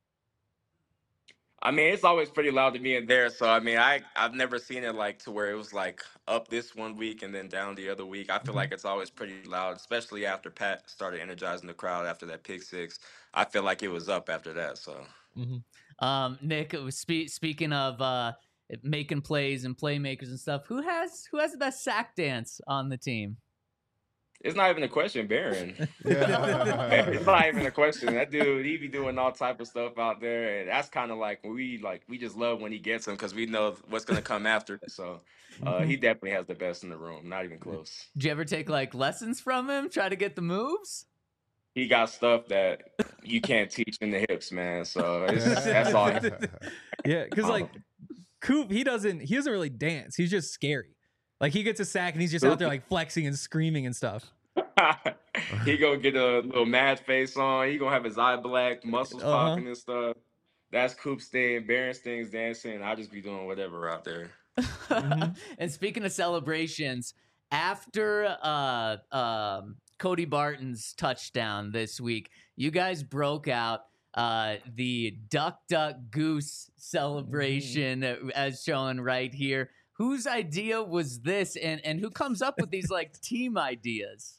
I mean, it's always pretty loud to me in there. So I mean, I've never seen it like to where it was like up this 1 week and then down the other week. I feel like it's always pretty loud, especially after Pat started energizing the crowd after that pick six. I feel like it was up after that. So. Nick, it was speaking of making plays and playmakers and stuff. Who has the best sack dance on the team? It's not even a question, Barron. Yeah. It's not even a question. That dude, he be doing all type of stuff out there, and that's kind of like we just love when he gets them because we know what's gonna come after. So he definitely has the best in the room. Not even close. Did you ever take like lessons from him? Try to get the moves? He got stuff that you can't teach in the hips, man. So that's all. Yeah, because like Coop, he doesn't really dance. He's just scary. Like he gets a sack and he's just out there like flexing and screaming and stuff. He gonna get a little mad face on. He gonna have his eye black, muscles popping and stuff. That's Coop's thing. Berensting's dancing. I just be doing whatever out there. And speaking of celebrations, after Cody Barton's touchdown this week, you guys broke out the Duck Duck Goose celebration as shown right here. Whose idea was this, and who comes up with these like team ideas?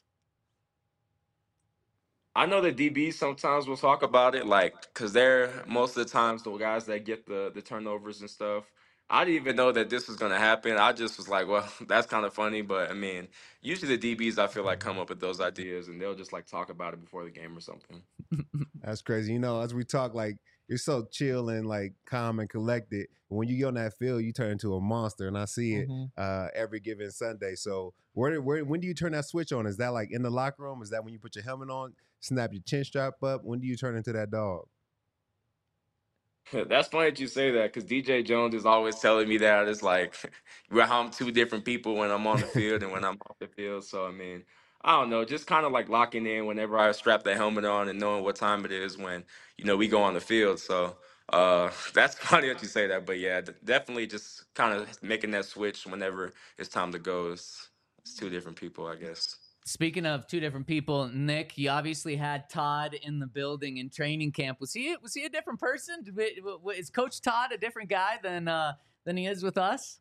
I know the DBs sometimes will talk about it, like, because they're most of the times the guys that get the turnovers and stuff. I didn't even know that this was going to happen. I just was like, well, that's kind of funny. But, I mean, usually the DBs, I feel like, come up with those ideas, and they'll just, like, talk about it before the game or something. That's crazy. You know, as we talk, like, you're so chill and, like, calm and collected. But when you get on that field, you turn into a monster, and I see it every given Sunday. So when do you turn that switch on? Is that, like, in the locker room? Is that when you put your helmet on, snap your chin strap up? When do you turn into that dog? That's funny that you say that because DJ Jones is always telling me that. It's like how I'm two different people when I'm on the field and when I'm off the field. So, I mean, I don't know, just kind of like locking in whenever I strap the helmet on and knowing what time it is when, we go on the field. So that's funny that you say that. But, yeah, definitely just kind of making that switch whenever it's time to go. It's two different people, I guess. Speaking of two different people, Nick, you obviously had Todd in the building in training camp. Was he a different person? Is Coach Todd a different guy than he is with us?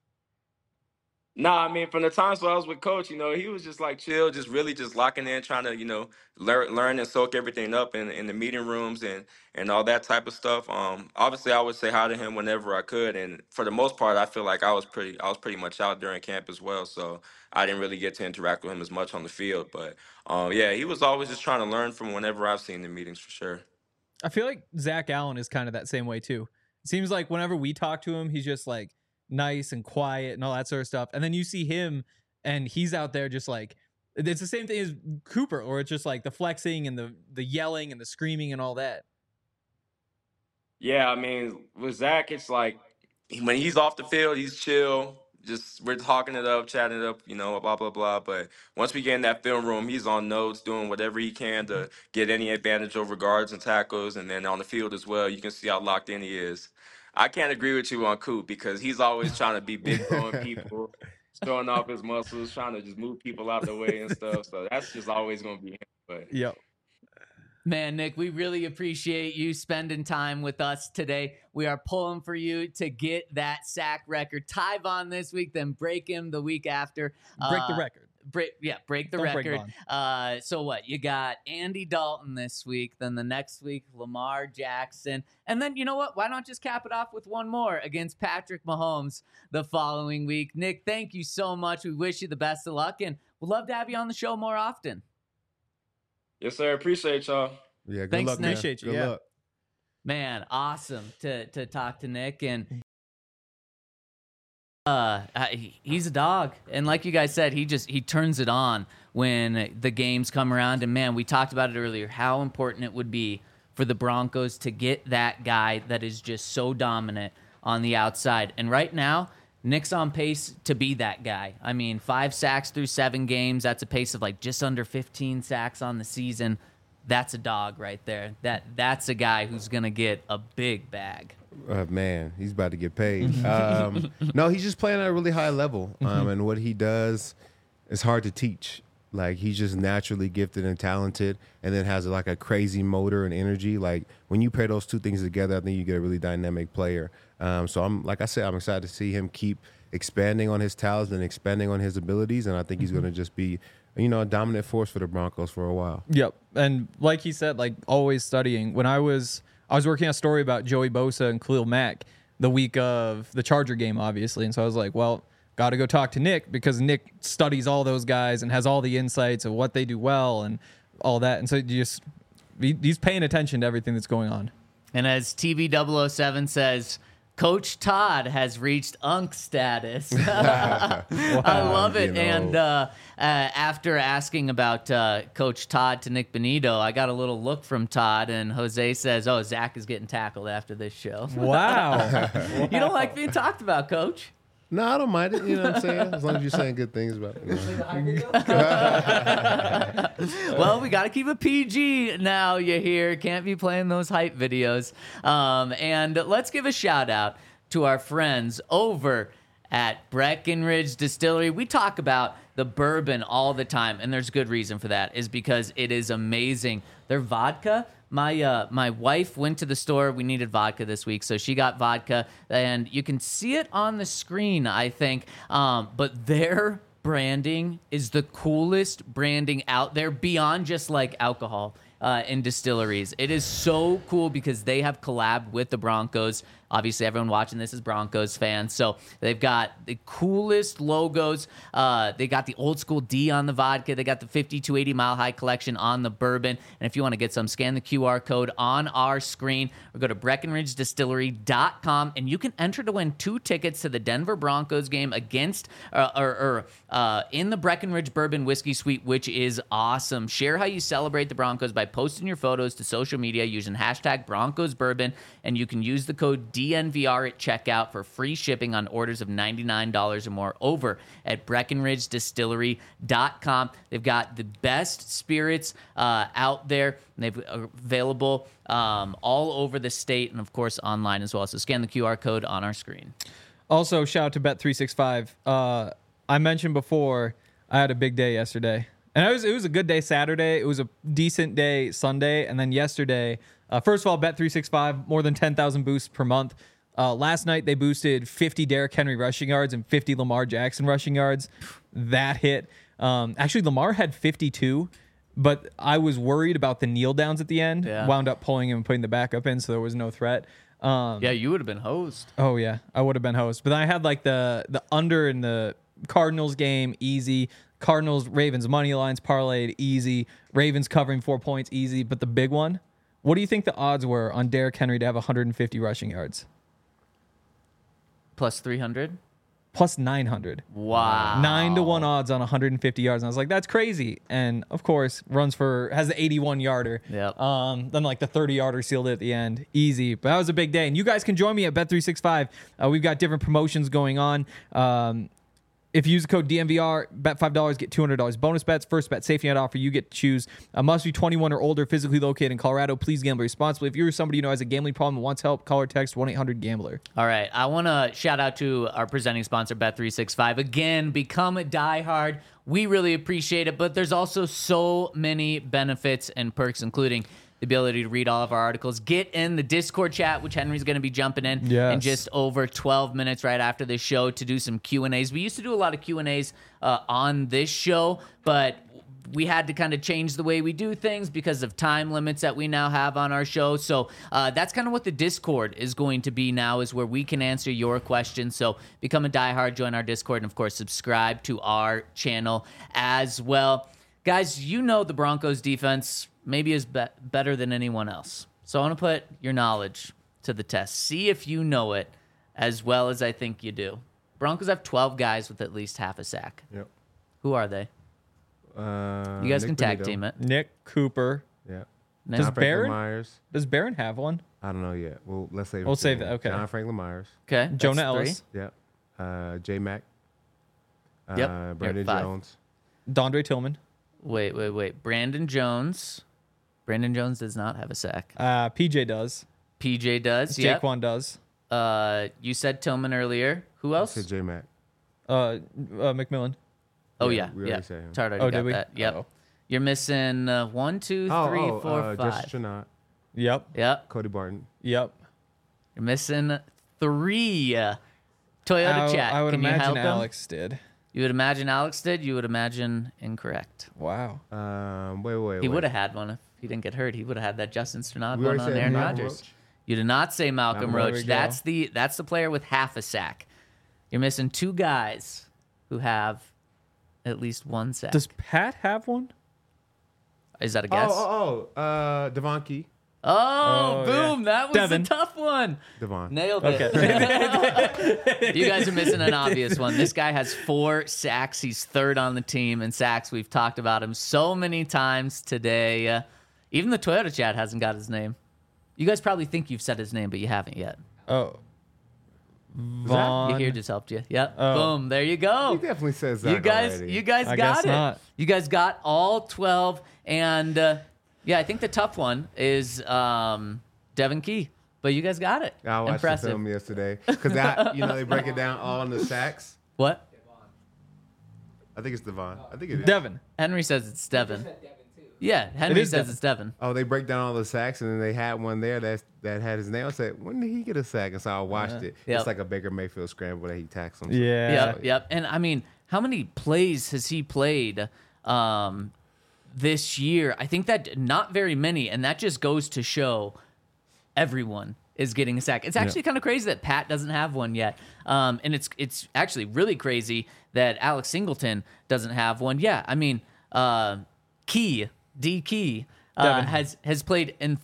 Nah, I mean, from the times when I was with Coach, he was just like chill, just really just locking in, trying to, learn and soak everything up in the meeting rooms and all that type of stuff. Obviously, I would say hi to him whenever I could, and for the most part, I feel like I was pretty much out during camp as well, so I didn't really get to interact with him as much on the field. But yeah, he was always just trying to learn from whenever I've seen the meetings for sure. I feel like Zach Allen is kind of that same way too. It seems like whenever we talk to him, he's just like nice and quiet and all that sort of stuff. And then you see him and he's out there just like, it's the same thing as Cooper, or it's just like the flexing and the yelling and the screaming and all that. Yeah, I mean, with Zach, it's like when he's off the field, he's chill. Just we're talking it up, chatting it up, blah blah blah. But once we get in that film room, he's on notes, doing whatever he can to get any advantage over guards and tackles, and then on the field as well. You can see how locked in he is. I can't agree with you on Coop because he's always trying to be big throwing people, showing off his muscles, trying to just move people out the way and stuff. So that's just always going to be him. But yep. Man, Nick, we really appreciate you spending time with us today. We are pulling for you to get that sack record. Tyvon this week, then break him the week after. Break the record. Break the record. So what? You got Andy Dalton this week, then the next week, Lamar Jackson. And then, you know what? Why not just cap it off with one more against Patrick Mahomes the following week? Nick, thank you so much. We wish you the best of luck, and we'd love to have you on the show more often. Yes, sir. Appreciate y'all. Yeah, Thanks, luck, Nick. man. Appreciate you. Good Yeah. luck. Man, awesome to talk to Nick. And he's a dog, and like you guys said, he turns it on when the games come around. And man, we talked about it earlier, how important it would be for the Broncos to get that guy that is just so dominant on the outside. And right now, Nick's on pace to be that guy. I mean, 5 sacks through 7 games. That's a pace of like just under 15 sacks on the season. That's a dog right there. That's a guy who's gonna get a big bag. Man, he's about to get paid. No, he's just playing at a really high level. And what he does is hard to teach. Like, he's just naturally gifted and talented, and then has like a crazy motor and energy. Like, when you pair those two things together, I think you get a really dynamic player. So I'm excited to see him keep expanding on his talents and expanding on his abilities. And I think he's going to just be, a dominant force for the Broncos for a while. Yep. And like he said, like always studying. When I was I was working on a story about Joey Bosa and Khalil Mack the week of the Charger game, obviously. And so I was like, well, got to go talk to Nick because Nick studies all those guys and has all the insights of what they do well and all that. And so he's paying attention to everything that's going on. And as TV007 says, Coach Todd has reached Unk status. I love it. And after asking about Coach Todd to Nick Benito, I got a little look from Todd, and Jose says, oh, Zach is getting tackled after this show. Wow. You don't like being talked about, Coach? No, I don't mind it. You know what I'm saying? As long as you're saying good things about it. Well, we got to keep it PG now, you hear. Can't be playing those hype videos. And let's give a shout out to our friends over at Breckenridge Distillery. We talk about the bourbon all the time, and there's good reason for that, is because it is amazing. Their vodka, my wife went to the store. We needed vodka this week, so she got vodka, and you can see it on the screen, I think. But their branding is the coolest branding out there beyond just like alcohol in distilleries. It is so cool because they have collabed with the Broncos. Obviously, everyone watching this is Broncos fans. So they've got the coolest logos. They got the old school D on the vodka. They got the 50 to 80 Mile High collection on the bourbon. And if you want to get some, scan the QR code on our screen or go to BreckenridgeDistillery.com, and you can enter to win 2 tickets to the Denver Broncos game against in the Breckenridge Bourbon Whiskey Suite, which is awesome. Share how you celebrate the Broncos by posting your photos to social media using hashtag Broncos Bourbon, and you can use the code DNVR at checkout for free shipping on orders of $99 or more over at BreckenridgeDistillery.com. They've got the best spirits out there. They've available all over the state and, of course, online as well. So scan the QR code on our screen. Also, shout out to Bet365. I mentioned before I had a big day yesterday. And it was a good day Saturday. It was a decent day Sunday. And then yesterday, first of all, Bet365, more than 10,000 boosts per month. Last night, they boosted 50 Derrick Henry rushing yards and 50 Lamar Jackson rushing yards. That hit. Actually, Lamar had 52, but I was worried about the kneel downs at the end. Yeah. Wound up pulling him and putting the backup in, so there was no threat. Yeah, you would have been host. Oh, yeah, I would have been host. But then I had like the under in the Cardinals game, easy. Cardinals, Ravens money lines parlayed, easy. Ravens covering 4 points, easy. But the big one, what do you think the odds were on Derrick Henry to have 150 rushing yards? Plus 300? Plus 900. Wow. 9-1 odds on 150 yards. And I was like, that's crazy. And of course, has the 81 yarder. Yep. Then like the 30 yarder sealed it at the end. Easy. But that was a big day. And you guys can join me at Bet365. We've got different promotions going on. If you use the code DNVR, bet $5, get $200 bonus bets. First bet safety net offer, you get to choose. Must be 21 or older, physically located in Colorado. Please gamble responsibly. If you're somebody you know has a gambling problem and wants help, call or text 1-800-GAMBLER. All right. I want to shout out to our presenting sponsor, Bet365. Again, become a diehard. We really appreciate it, but there's also so many benefits and perks, including the ability to read all of our articles. Get in the Discord chat, which Henry's going to be jumping in in just over 12 minutes right after this show to do some Q&As. We used to do a lot of Q&As on this show, but we had to kind of change the way we do things because of time limits that we now have on our show. So that's kind of what the Discord is going to be now, is where we can answer your questions. So become a diehard, join our Discord, and of course, subscribe to our channel as well. Guys, you know the Broncos defense maybe is better than anyone else. So I want to put your knowledge to the test. See if you know it as well as I think you do. Broncos have 12 guys with at least half a sack. Yep. Who are they? You guys can tag team it. Nick Cooper. Yeah. Does John Franklin Barron? Myers. Does Barron have one? I don't know yet. Well, let's save it. We'll to save the that, end. okay. John Franklin Myers. Okay. that's Jonah 3. Ellis. Yep. J Mac. Yep. Brandon 5. Jones. Dondre Tillman. Wait. Brandon Jones. Brandon Jones does not have a sack. PJ does. PJ does. Yep. Jaquan does. You said Tillman earlier. Who else? J Mac. McMillan. Oh Yeah, yeah. we already said him. Tard already Oh, got did we? that. Yep. Uh-oh. You're missing 1, 2, 3, 4, 5. Justin Trinot. Yep. Yep. Cody Barton. Yep. You're missing 3. Toyota chat. I would Can you imagine help him? Alex did. You would imagine Alex did. You would imagine incorrect. Wow. Wait. He would have had one if he didn't get hurt. He would have had that Justin Sternad We one already on said Aaron Matt Rodgers. Roach. You did not say Malcolm There we Roach. go. That's the player with half a sack. You're missing two guys who have at least one sack. Does Pat have one? Is that a guess? Devon Key. Oh, boom. yeah. That was Devin. a tough one. Devon. Nailed it. You guys are missing an obvious one. This guy has 4 sacks. He's third on the team in sacks. We've talked about him so many times today. Even the Toyota chat hasn't got his name. You guys probably think you've said his name, but you haven't yet. Oh. You Vaughn. here just helped you. Yep. Oh. Boom. There you go. He definitely says that. You guys I got guess it. not. You guys got all 12. And yeah, I think the tough one is Devin Key. But you guys got it. I watched Impressive. the film yesterday because they break it down all in the sacks. What? I think it's Devon. I think it is. Devin. Henry says it's Devin. Yeah, Henry is says Devin. it's Devin. Oh, they break down all the sacks, and then they had one there that had his name. I said, when did he get a sack? And so I watched it. Yep. It's like a Baker Mayfield scramble that he tacks him. Yeah. Yep. And I mean, how many plays has he played this year? I think that not very many, and that just goes to show everyone is getting a sack. It's actually kind of crazy that Pat doesn't have one yet, and it's actually really crazy that Alex Singleton doesn't have one. Yeah, I mean, D Key has played in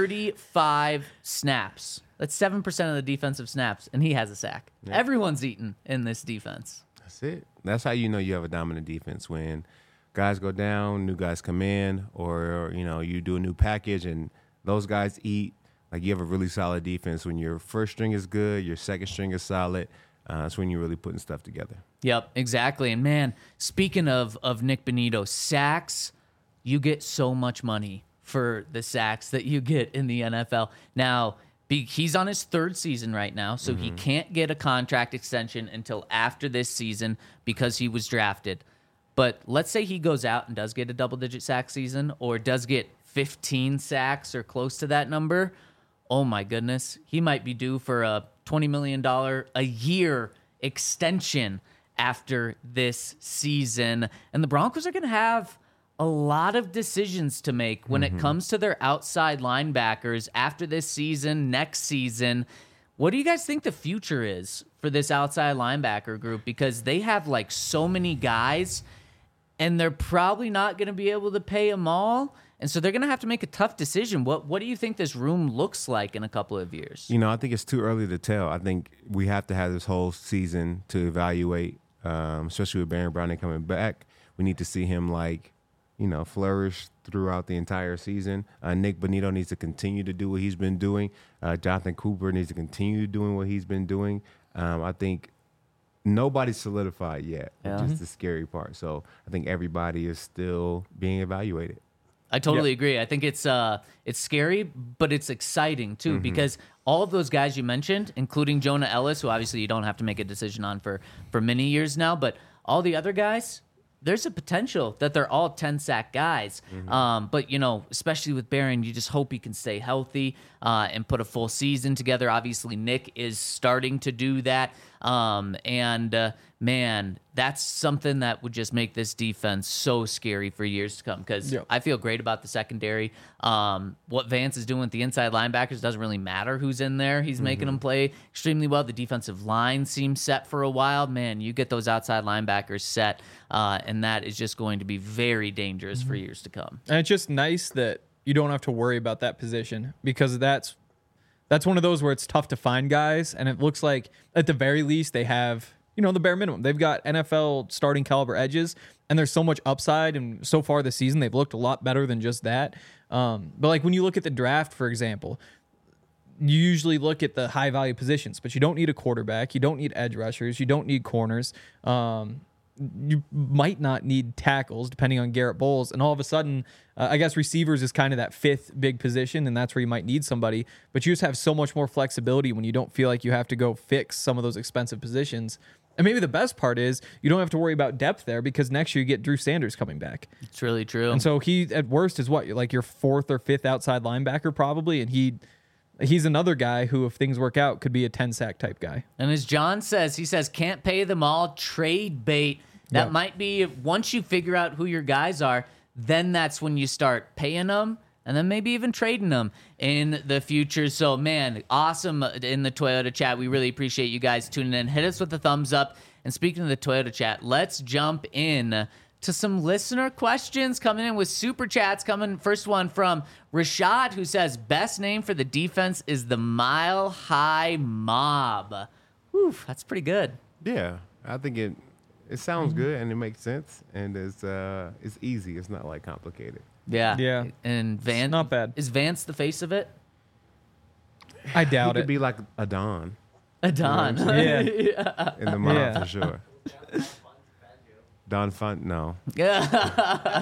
35 snaps. That's 7% of the defensive snaps, and he has a sack. Yeah. Everyone's eaten in this defense. That's it. That's how you know you have a dominant defense, when guys go down, new guys come in, or you do a new package and those guys eat. Like, you have a really solid defense when your first string is good, your second string is solid. That's when you're really putting stuff together. Yep, exactly. And man, speaking of Nick Bonito, sacks, you get so much money for the sacks that you get in the NFL. Now, he's on his 3rd season right now, so he can't get a contract extension until after this season because he was drafted. But let's say he goes out and does get a double-digit sack season, or does get 15 sacks or close to that number. Oh my goodness, he might be due for a $20 million a year extension after this season. And the Broncos are going to have a lot of decisions to make when it comes to their outside linebackers after this season, next season. What do you guys think the future is for this outside linebacker group? Because they have like so many guys, and they're probably not going to be able to pay them all. And so they're going to have to make a tough decision. What do you think this room looks like in a couple of years? I think it's too early to tell. I think we have to have this whole season to evaluate, especially with Baron Browning coming back. We need to see him flourish throughout the entire season. Nick Bonito needs to continue to do what he's been doing. Jonathan Cooper needs to continue doing what he's been doing. I think nobody's solidified yet, which is the scary part. So I think everybody is still being evaluated. I totally agree. I think it's scary, but it's exciting too, because all of those guys you mentioned, including Jonah Ellis, who obviously you don't have to make a decision on for many years now, but all the other guys, there's a potential that they're all 10-sack guys. But, especially with Barron, you just hope he can stay healthy and put a full season together. Obviously, Nick is starting to do that. Man, that's something that would just make this defense so scary for years to come, because I feel great about the secondary. What Vance is doing with the inside linebackers doesn't really matter who's in there. He's making them play extremely well. The defensive line seems set for a while. Man, you get those outside linebackers set, and that is just going to be very dangerous for years to come. And it's just nice that you don't have to worry about that position, because that's one of those where it's tough to find guys, and it looks like at the very least they have the bare minimum. They've got NFL starting caliber edges, and there's so much upside, and so far this season they've looked a lot better than just that. But like when you look at the draft, for example, you usually look at the high value positions, but you don't need a quarterback, you don't need edge rushers, you don't need corners. You might not need tackles, depending on Garrett Bowles. And all of a sudden, I guess receivers is kind of that 5th big position, and that's where you might need somebody. But you just have so much more flexibility when you don't feel like you have to go fix some of those expensive positions. And maybe the best part is you don't have to worry about depth there, because next year you get Drew Sanders coming back. It's really true. And so he, at worst, is what, like your 4th or 5th outside linebacker probably, and he's another guy who, if things work out, could be a 10-sack type guy. And as John says, he says, can't pay them all, trade bait. That might be, once you figure out who your guys are, then that's when you start paying them. and then maybe even trading them in the future. So, man, awesome in the Toyota chat. We really appreciate you guys tuning in. Hit us with a thumbs up. And speaking of the Toyota chat, let's jump in to some listener questions coming in with super chats. First one from Rashad, who says, best name for the defense is the Mile High Mob. Whew, that's pretty good. Yeah, I think it sounds good and it makes sense and it's easy. It's not like complicated. Yeah. Yeah. And Vance, not bad. Is Vance the face of it? I doubt It it. could be like a Don Adon. Yeah. in the mob Yeah. for sure. Don Font, no. Yeah.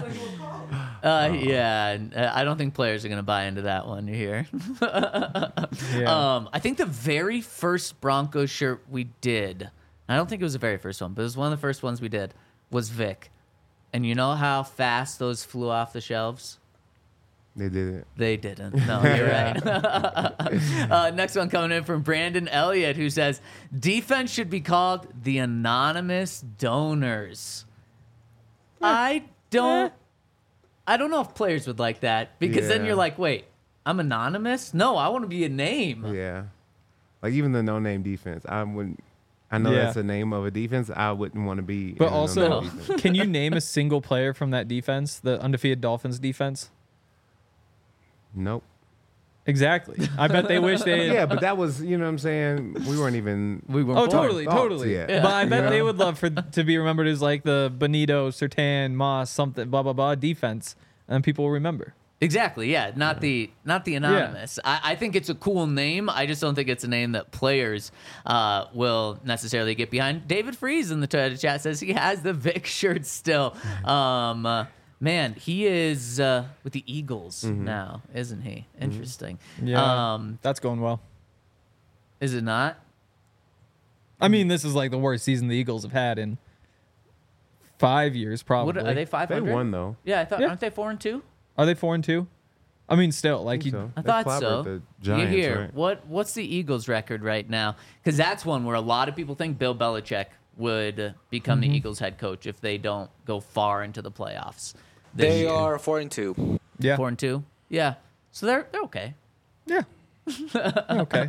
I don't think players are going to buy into that one. You hear? Yeah. I think the very first Broncos shirt we did, I don't think it was the very first one, but it was one of the first ones we did, was Vic. And you know how fast those flew off the shelves? They did it. They didn't. No, you're right. Next one coming in from Brandon Elliott, who says, defense should be called the anonymous donors. I don't know if players would like that, because then Yeah. you're like, wait, I'm anonymous? No, I want to be a name. Yeah. Like even the no-name defense, I wouldn't. I know Yeah. that's the name of a defense. I wouldn't want to be. But in a also, no-name defense. can you name a single player from that defense, the undefeated Dolphins defense? Nope. Exactly. I bet they wish they. Yeah, but that was, you know what I'm saying? We weren't even. We were Oh, born. totally, thoughts totally. yet. But I bet Yeah. they would love to be remembered as like the Benito, Sertan, Moss, something, blah blah blah defense, and people will remember. Exactly, yeah. Not the anonymous. I think it's a cool name. I just don't think it's a name that players will necessarily get behind. David Freeze in the Toyota chat says he has the Vic shirt still. Man, he is with the Eagles now, isn't he? Interesting. Yeah, that's going well. Is it not? I mean, this is like the worst season the Eagles have had in 5 years, probably. What, are they 500? They won though. Yeah, I thought. Yeah. Aren't they 4-2? Are they 4-2? I mean, still, like you. So. I They thought clobbered so. The Giants, you hear right? what's the Eagles' record right now? Because that's one where a lot of people think Bill Belichick would become the Eagles head coach if they don't go far into the playoffs. this They year. are 4-2. Yeah. 4-2. Yeah, so they're okay. Yeah. Okay.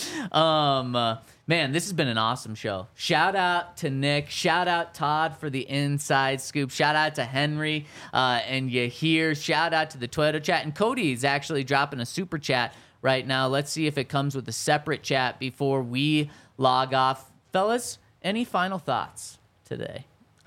Man, this has been an awesome show. Shout out to Nick. Shout out Todd for the inside scoop. Shout out to Henry and Yahir. Shout out to the Toyota chat. And Cody is actually dropping a super chat right now. Let's see if it comes with a separate chat before we log off. Fellas, any final thoughts today?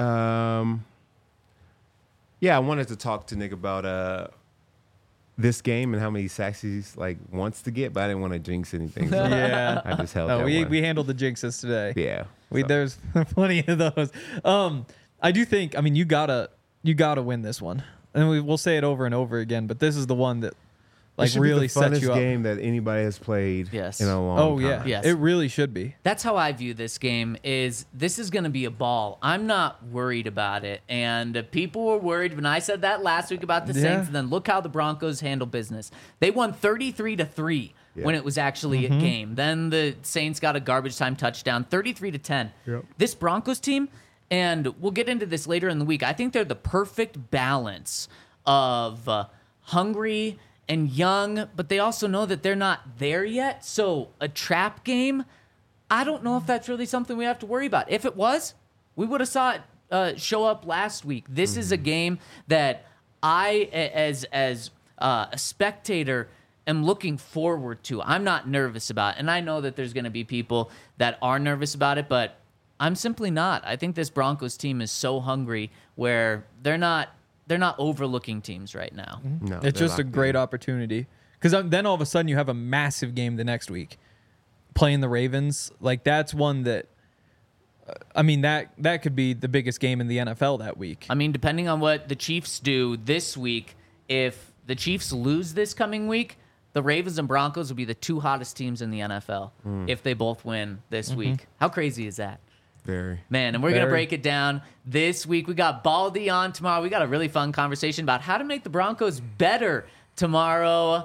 Yeah, I wanted to talk to Nick about this game and how many sacks he's like wants to get, but I didn't want to jinx anything. So Yeah. I just held No, that we one. handled the jinxes today. Yeah. so. There's plenty of those. I do think. I mean, you gotta win this one, and we'll say it over and over again. But this is the one that It like should be really the sets funnest you up. game that anybody has played Yes. in a long Oh time. yeah, Yes. it really should be. That's how I view this game. This is going to be a ball. I'm not worried about it. And people were worried when I said that last week about the Yeah. Saints. And then look how the Broncos handle business. They won 33-3 when it was actually a game. Then the Saints got a garbage time touchdown, 33-10. Yep. This Broncos team, and we'll get into this later in the week, I think they're the perfect balance of hungry and young, but they also know that they're not there yet. So a trap game, I don't know if that's really something we have to worry about. If it was, we would have saw it show up last week. This is a game that I, as a spectator, am looking forward to. I'm not nervous about it. And I know that there's going to be people that are nervous about it, but I'm simply not. I think this Broncos team is so hungry where they're not overlooking teams right now. No, It's they're just a locked great in. opportunity because then all of a sudden you have a massive game the next week, playing the Ravens. Like that's one that, I mean that could be the biggest game in the NFL that week. I mean, depending on what the Chiefs do this week, if the Chiefs lose this coming week, the Ravens and Broncos will be the two hottest teams in the NFL if they both win this week. How crazy is that? Very. Man, and we're going to Very. break it down this week. We got Baldy on tomorrow. We got a really fun conversation about how to make the Broncos better tomorrow.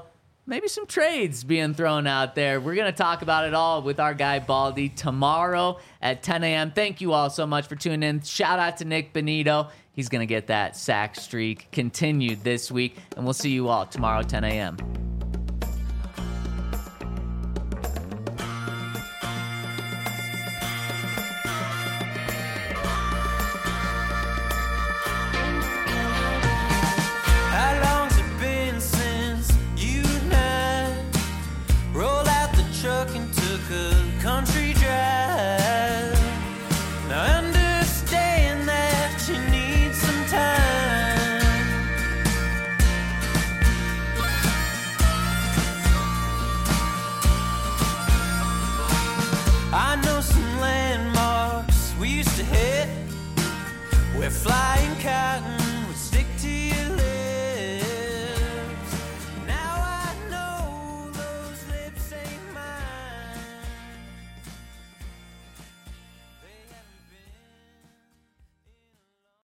maybe some trades being thrown out there. We're going to talk about it all with our guy Baldy tomorrow at 10 a.m. Thank you all so much for tuning in. Shout out to Nick Benito. He's going to get that sack streak continued this week, and we'll see you all tomorrow, 10 a.m. How long's it been since you and I rolled out the truck and took a country drive? Now I understand that you need some time. I know some landmarks we used to hit where flying cotton